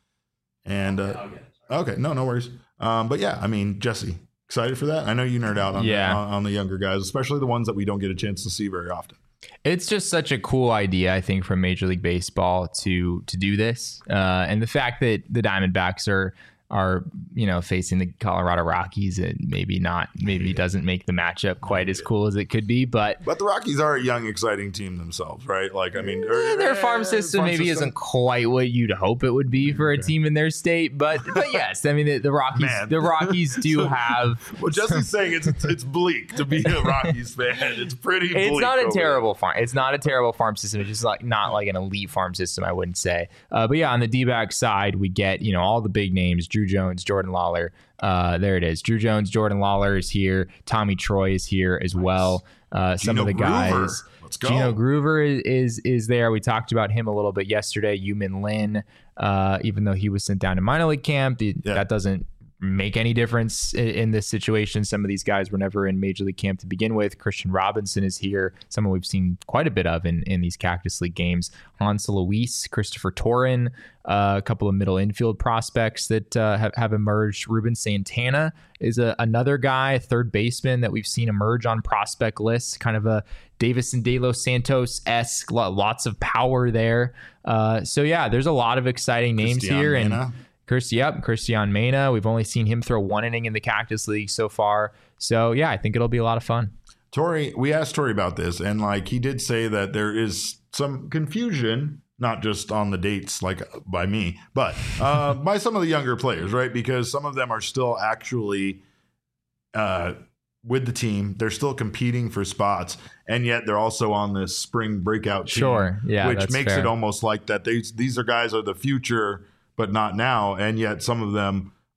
And uh, okay, no, no worries. Um, but yeah, I mean, Jesse, excited for that? I know you nerd out on, Yeah. the, on, on the younger guys, especially the ones that we don't get a chance to see very often. It's just such a cool idea, I think, from Major League Baseball to to do this, uh, and the fact that the Diamondbacks are are you know facing the Colorado Rockies, and maybe not, maybe doesn't make the matchup quite as cool as it could be, but But the Rockies are a young, exciting team themselves, right? Like, I mean, eh, their farm system farm maybe system- isn't quite what you'd hope it would be for a team in their state, but but yes, I mean the, the Rockies Man. the Rockies do have. Well, Jesse's saying it's it's bleak to be a Rockies fan. It's pretty bleak. It's not a over terrible farm. It's not a terrible farm system. It's just like not like an elite farm system, I wouldn't say. Uh, but yeah, on the D-back side, we get you know all the big names: Drew Jones, Jordan Lawler. Uh, there it is. Drew Jones, Jordan Lawler is here. Tommy Troy is here as well. Uh, some Gino of the Groover. guys. Let's go. Gino Groover is, is is there. We talked about him a little bit yesterday. Yumin Lin, uh, even though he was sent down to minor league camp, the, Yeah. that doesn't make any difference in, in this situation. Some of these guys were never in major league camp to begin with. Christian Robinson is here, someone we've seen quite a bit of in, in these Cactus League games. Hansel Luis, Christopher Torin, uh, a couple of middle infield prospects that uh, have, have emerged. Ruben Santana is a, another guy, third baseman that we've seen emerge on prospect lists, kind of a Davison De Los Santos-esque, lots of power there. Uh, so yeah, there's a lot of exciting names Christian here. Mena. And Chris, yep, Christian Mena. We've only seen him throw one inning in the Cactus League so far. So yeah, I think it'll be a lot of fun. Tori, we asked Tori about this, and like he did say that there is some confusion, not just on the dates, like by me, but uh, by some of the younger players, right? Because some of them are still actually uh, with the team. They're still competing for spots, and yet they're also on this spring breakout team. Sure, yeah, which that's makes fair. it almost like that these these are guys are the future, but not now, and yet some of them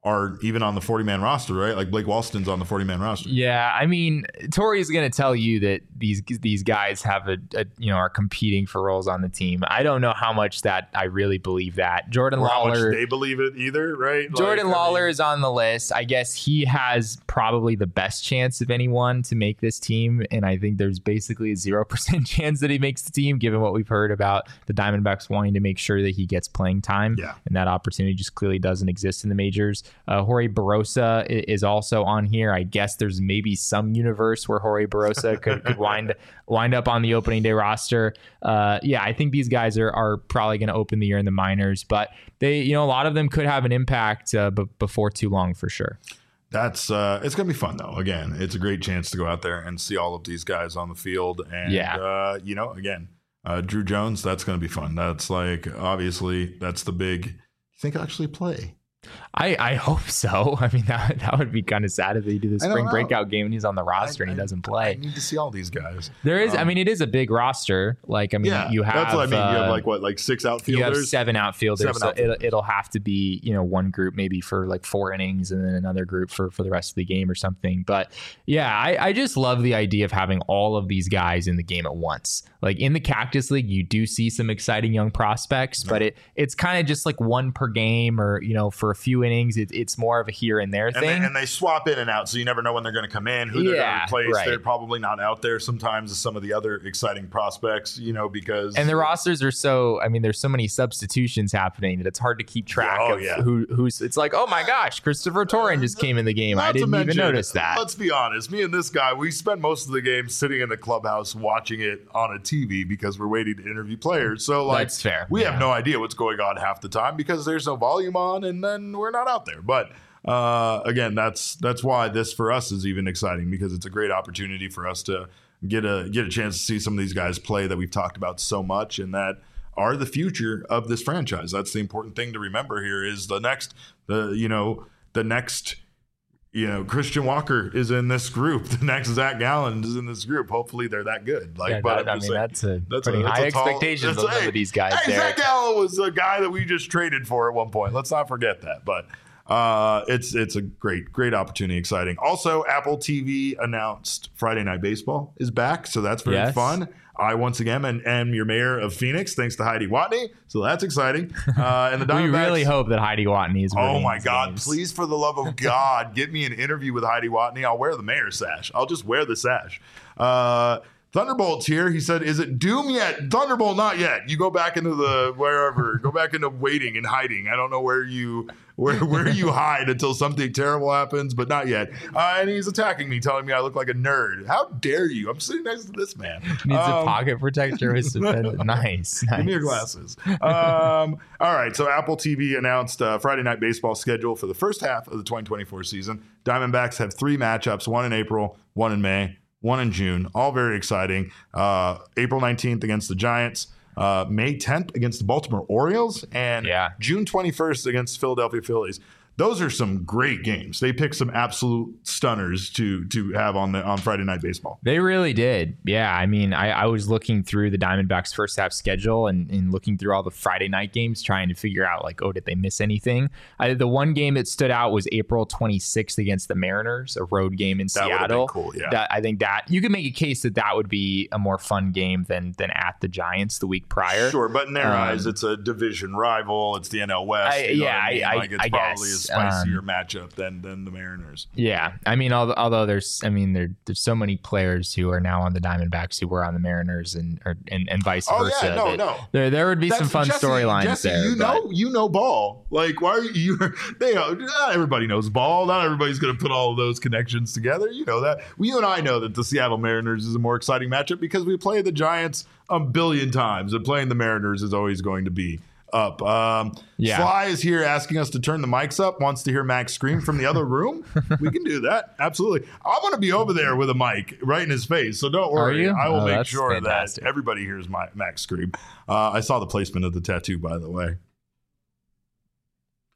are even on the forty-man roster, right? Like Blake Walston's on the forty-man roster. Yeah, I mean, Tori is going to tell you that these these guys have a, a you know are competing for roles on the team. I don't know how much that I really believe that. Jordan or Lawler, how much they believe it either, right? Jordan like, Lawler I mean, is on the list. I guess he has probably the best chance of anyone to make this team, and I think there's basically a zero percent chance that he makes the team, given what we've heard about the Diamondbacks wanting to make sure that he gets playing time. Yeah. And that opportunity just clearly doesn't exist in the majors. Uh, Jorge Barosa is also on here. I guess there's maybe some universe where Jorge Barosa could, could wind wind up on the opening day roster. Uh, yeah, I think these guys are are probably going to open the year in the minors, but they, you know, a lot of them could have an impact uh, b- before too long for sure. That's uh, it's gonna be fun though. Again, it's a great chance to go out there and see all of these guys on the field, and Yeah. uh, you know, again, uh, Drew Jones. That's gonna be fun. That's like obviously that's the big. You think he'll actually play? I, I hope so. I mean, that, that would be kind of sad if they do the I don't spring know. breakout game and he's on the roster I- and he I- doesn't I play. need to see all these guys. There is, I Um, mean, it is a big roster. Like, I mean, Yeah, you have, that's what I mean. you have uh, like what, like six you have outfielders. seven outfielders. Seven so outfielders. It'll, it'll have to be, you know, one group maybe for like four innings and then another group for, for the rest of the game or something. But yeah, I, I just love the idea of having all of these guys in the game at once. Like in the Cactus League, you do see some exciting young prospects, but it it's kind of just like one per game or, you know, for a few innings, it, it's more of a here and there And thing. they, and they swap in and out, so you never know when they're going to come in, who they're Yeah, going to replace. right. They're probably not out there sometimes as some of the other exciting prospects, you know, because And the rosters are so, I mean, there's so many substitutions happening that it's hard to keep track Yeah, oh, of yeah. who who's, it's like, oh my gosh, Christopher Torren just came in the game. Not I to didn't even mention, notice that. Let's be honest, me and this guy, we spend most of the game sitting in the clubhouse watching it on a T V because we're waiting to interview players. So like, That's fair. we Yeah. have no idea what's going on half the time because there's no volume on, and then we're not out there. But uh, again, that's that's why this for us is even exciting, because it's a great opportunity for us to get a get a chance to see some of these guys play that we've talked about so much and that are the future of this franchise. That's the important thing to remember here is the next the you know the next you know Christian Walker is in this group. The next Zach Gallen is in this group. Hopefully they're that good. Like, Yeah, but that- I'm I just mean, saying, that's a that's putting that's high tall- expectations that's- on some hey, of these guys Hey, there. Zach Gallen was a guy that we just traded for at one point. Let's not forget that. But uh, it's it's a great great opportunity, exciting. Also, Apple T V announced Friday Night Baseball is back, so that's very Yes. fun. I once again am, am your mayor of Phoenix, thanks to Heidi Watney, so that's exciting. Uh, and the We Diamondbacks, really hope that Heidi Watney is Oh winning my these God! games. Please, for the love of God, get me an interview with Heidi Watney. I'll wear the mayor's sash. I'll just wear the sash. Uh, Thunderbolt's here. He said, "Is it Doom yet? Thunderbolt, not yet. You go back into the wherever. Go back into waiting and hiding. I don't know where you where where you hide until something terrible happens, but not yet." Uh, and he's attacking me, telling me I look like a nerd. How dare you? I'm sitting next to this man. Needs a Um, pocket protector with some nice, nice. Give me your glasses. Um, all right. So Apple T V announced uh, Friday Night Baseball schedule for the first half of the twenty twenty-four season. Diamondbacks have three matchups: one in April, one in May, one in June. All very exciting. Uh, April nineteenth against the Giants. Uh, May tenth against the Baltimore Orioles, and Yeah. June twenty-first against the Philadelphia Phillies. Those are some great games. They picked some absolute stunners to to have on the on Friday Night Baseball. They really did. Yeah. I mean, I, I was looking through the Diamondbacks first half schedule and, and looking through all the Friday night games, trying to figure out like, oh, did they miss anything? I, the one game that stood out was April twenty-sixth against the Mariners, a road game in That would've been Seattle. cool, yeah. That, I think that you could make a case that that would be a more fun game than than at the Giants the week prior. Sure, but in their Um, eyes, it's a division rival. It's the N L West. I- you know yeah, what I, mean? I- like it's I probably guess, a spicier um, matchup than than the Mariners. Yeah, I mean, although, although there's, I mean, there there's so many players who are now on the Diamondbacks who were on the Mariners, and or, and, and vice Oh, versa. yeah, no, that no. There there would be some That's- fun Jesse- storylines Jesse, there. You but- know, you know ball. Like, why are you? They not everybody knows ball. Not everybody's going to put all of those connections together. You know that. Well, you and I know that the Seattle Mariners is a more exciting matchup because we play the Giants a billion times, and playing the Mariners is always going to be up. Um, Yeah. Sly is here asking us to turn the mics up, wants to hear Max scream from the other room. We can do that. Absolutely. I'm going to be over there with a mic right in his face. So don't worry. you? I will Oh, make that's sure fantastic. that everybody hears my Max scream. Uh, I saw the placement of the tattoo, by the way.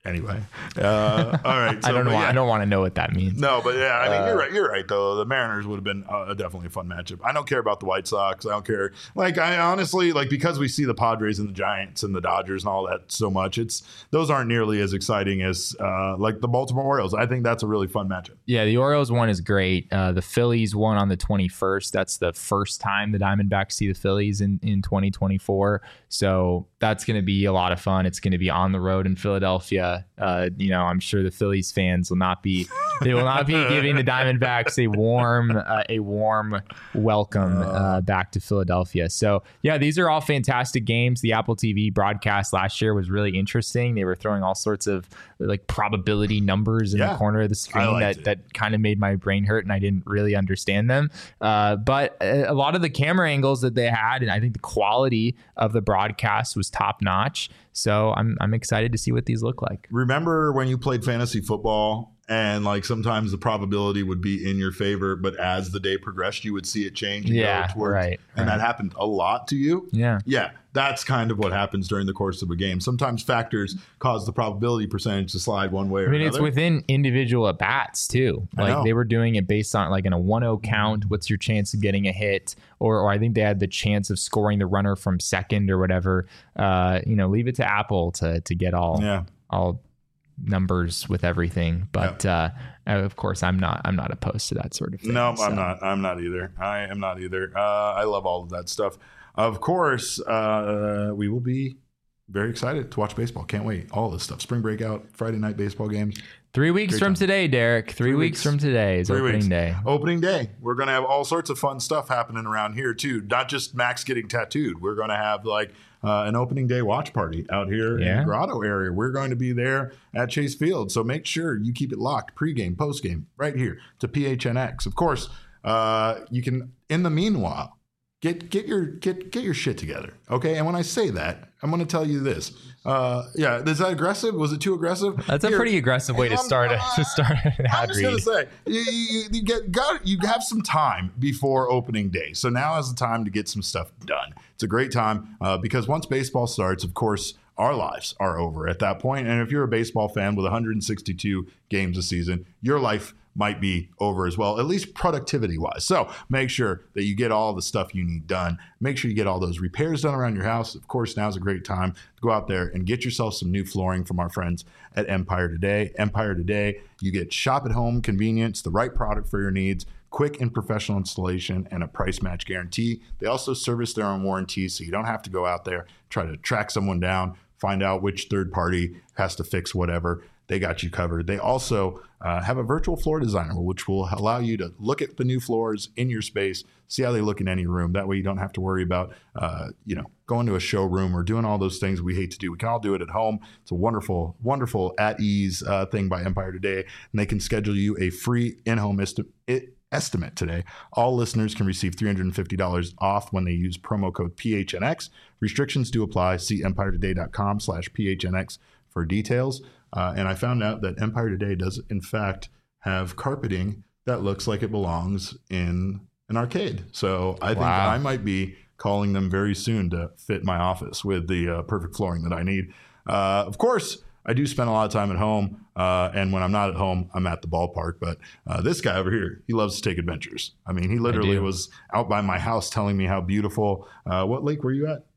Anyway, uh, all right. So, I don't know. yeah. I don't want to know what that means. No, but yeah, I mean, Uh, you're right. You're right, though. The Mariners would have been uh, definitely a fun matchup. I don't care about the White Sox. I don't care. Like, I honestly, like, because we see the Padres and the Giants and the Dodgers and all that so much, it's those aren't nearly as exciting as uh, like the Baltimore Orioles. I think that's a really fun matchup. Yeah, the Orioles one is great. Uh, the Phillies won on the twenty-first. That's the first time the Diamondbacks see the Phillies in, in twenty twenty-four. So that's going to be a lot of fun. It's going to be on the road in Philadelphia. Uh, you know, I'm sure the Phillies fans will not be they will not be giving the Diamondbacks a warm uh, a warm welcome uh, back to Philadelphia. So yeah, these are all fantastic games. The Apple T V broadcast last year was really interesting. They were throwing all sorts of like probability numbers in Yeah, the corner of the screen that it. that kind of made my brain hurt, and I didn't really understand them. Uh, but a, a lot of the camera angles that they had, and I think the quality of the broadcast was top notch. So I'm I'm excited to see what these look like. Remember when you played fantasy football and like sometimes the probability would be in your favor, but as the day progressed, you would see it change. And Yeah, go towards, right, And right. that happened a lot to you. Yeah. Yeah. That's kind of what happens during the course of a game. Sometimes factors cause the probability percentage to slide one way or I mean, another. it's within individual at bats too. I know. Like they were doing it based on like in a one oh count. What's your chance of getting a hit? Or, or I think they had the chance of scoring the runner from second or whatever. Uh, you know, leave it to Apple to to get all Yeah. all numbers with everything. But uh, of course, I'm not I'm not opposed to that sort of thing. No, so. I'm not. I'm not either. I am not either. Uh, I love all of that stuff. Of course, uh, we will be very excited to watch baseball. Can't wait. All this stuff. Spring breakout, Friday night baseball games. Three weeks Great from time. today, Derek. Three, Three weeks. weeks. from today is Three opening weeks. day. Opening day. We're going to have all sorts of fun stuff happening around here, too. Not just Max getting tattooed. We're going to have like uh, an opening day watch party out here in Yeah. the Grotto area. We're going to be there at Chase Field. So make sure you keep it locked pregame, postgame, right here to P H N X. Of course, uh, you can, in the meanwhile, Get get your get get your shit together, okay? And when I say that, I'm going to tell you this. Uh, yeah, is that aggressive? Was it too aggressive? That's a Here, pretty aggressive way to I'm- start a, to start an I'm ad just gonna read. say you, you, you get got you have some time before opening day, so now is the time to get some stuff done. It's a great time uh, because once baseball starts, of course, our lives are over at that point. And if you're a baseball fan with one hundred sixty-two games a season, your life might be over as well, at least productivity wise. So make sure that you get all the stuff you need done. Make sure you get all those repairs done around your house. Of course, now's a great time to go out there and get yourself some new flooring from our friends at Empire Today. Empire Today, you get shop at home convenience, the right product for your needs, quick and professional installation, and a price match guarantee. They also service their own warranties, so you don't have to go out there, try to track someone down, find out which third party has to fix whatever. They got you covered. They also uh, have a virtual floor designer, which will allow you to look at the new floors in your space, see how they look in any room. That way you don't have to worry about, uh, you know, going to a showroom or doing all those things we hate to do. We can all do it at home. It's a wonderful, wonderful at ease uh, thing by Empire Today. And they can schedule you a free in-home esti- it, estimate today. All listeners can receive three hundred fifty dollars off when they use promo code P H N X. Restrictions do apply. See empire today dot com slash P H N X for details. Uh, and I found out that Empire Today does, in fact, have carpeting that looks like it belongs in an arcade. So I think Wow. I might be calling them very soon to fit my office with the uh, perfect flooring that I need. Uh, of course, I do spend a lot of time at home. Uh, and when I'm not at home, I'm at the ballpark. But uh, this guy over here, he loves to take adventures. I mean, he literally do. was out by my house telling me how beautiful. Uh, what lake were you at?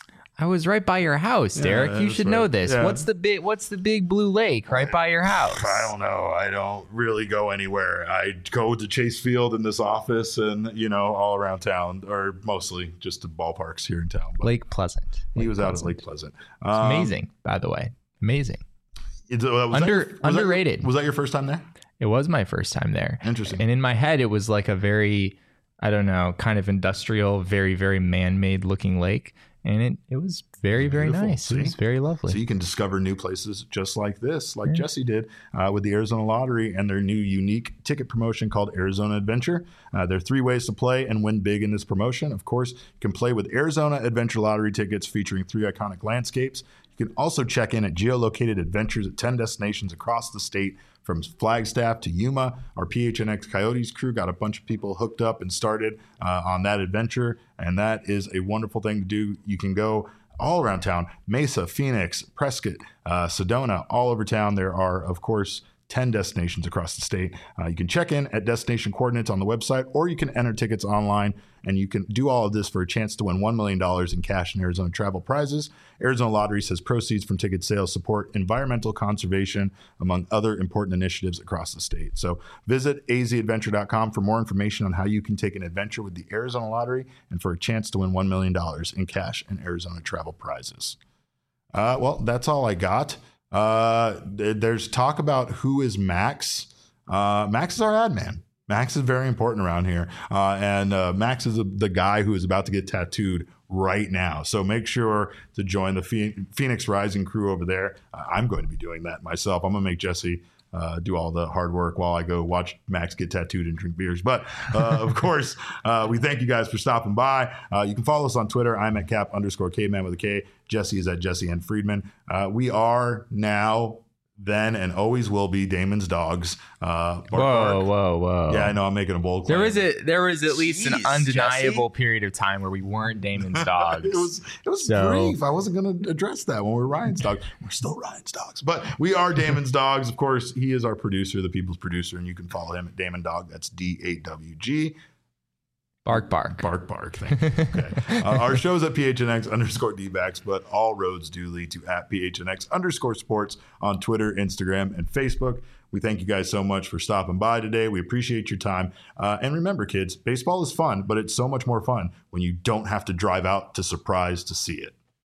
I was right by your house, Derek. you that's should right. know this. Yeah. What's the big What's the big blue lake right by your house? I don't know. I don't really go anywhere. I go to Chase Field in this office and, you know, all around town, or mostly just the ballparks here in town. But Lake Pleasant. he Lake was out at Pleasant. Lake Pleasant. It's Um, amazing, by the way. Amazing. Is it- was that Under- your- was that your- underrated. was that your first time there? It was my first time there. Interesting. And in my head, it was like a very, I don't know, kind of industrial, very, very man-made looking lake. And it, it was very, very Beautiful. nice. See? It was very lovely. So you can discover new places just like this, like Yeah. Jesse did uh, with the Arizona Lottery and their new unique ticket promotion called Arizona Adventure. Uh, there are three ways to play and win big in this promotion. Of course, you can play with Arizona Adventure Lottery tickets featuring three iconic landscapes. You can also check in at geolocated adventures at ten destinations across the state, from Flagstaff to Yuma. Our P H N X Coyotes crew got a bunch of people hooked up and started uh, on that adventure, and that is a wonderful thing to do. You can go all around town. Mesa, Phoenix, Prescott, uh, Sedona, all over town. There are, of course, ten destinations across the state. Uh, you can check in at destination coordinates on the website, or you can enter tickets online, and you can do all of this for a chance to win one million dollars in cash and Arizona travel prizes. Arizona Lottery says proceeds from ticket sales support environmental conservation, among other important initiatives across the state. So visit a z adventure dot com for more information on how you can take an adventure with the Arizona Lottery and for a chance to win one million dollars in cash and Arizona travel prizes. Uh, well, that's all I got. Uh, there's talk about who is Max. Uh, Max is our ad man. Max is very important around here. Uh, and uh, Max is the, the guy who is about to get tattooed right now. So make sure to join the Phoenix Rising crew over there. Uh, I'm going to be doing that myself. I'm going to make Jesse uh, do all the hard work while I go watch Max get tattooed and drink beers. But uh, of course, uh, we thank you guys for stopping by. Uh, you can follow us on Twitter. I'm at cap underscore caveman with a K. Jesse is at Jesse N. Friedman. Uh, we are now, then, and always will be Damon's dogs. Uh, bark, whoa, bark. whoa, whoa! Yeah, I know. I'm making a bold claim. There was a there was at least Jeez, an undeniable Jesse? period of time where we weren't Damon's dogs. it was it was So- brief. I wasn't going to address that when we were Ryan's dogs. We're still Ryan's dogs, but we are Damon's dogs. Of course, he is our producer, the people's producer, and you can follow him at Damon Dog. That's D A W G. Bark, bark. Bark, bark. Thank you. Okay. uh, our show's at P H N X underscore D-backs, but all roads do lead to at P H N X underscore sports on Twitter, Instagram, and Facebook. We thank you guys so much for stopping by today. We appreciate your time. Uh, and remember, kids, baseball is fun, but it's so much more fun when you don't have to drive out to Surprise to see it.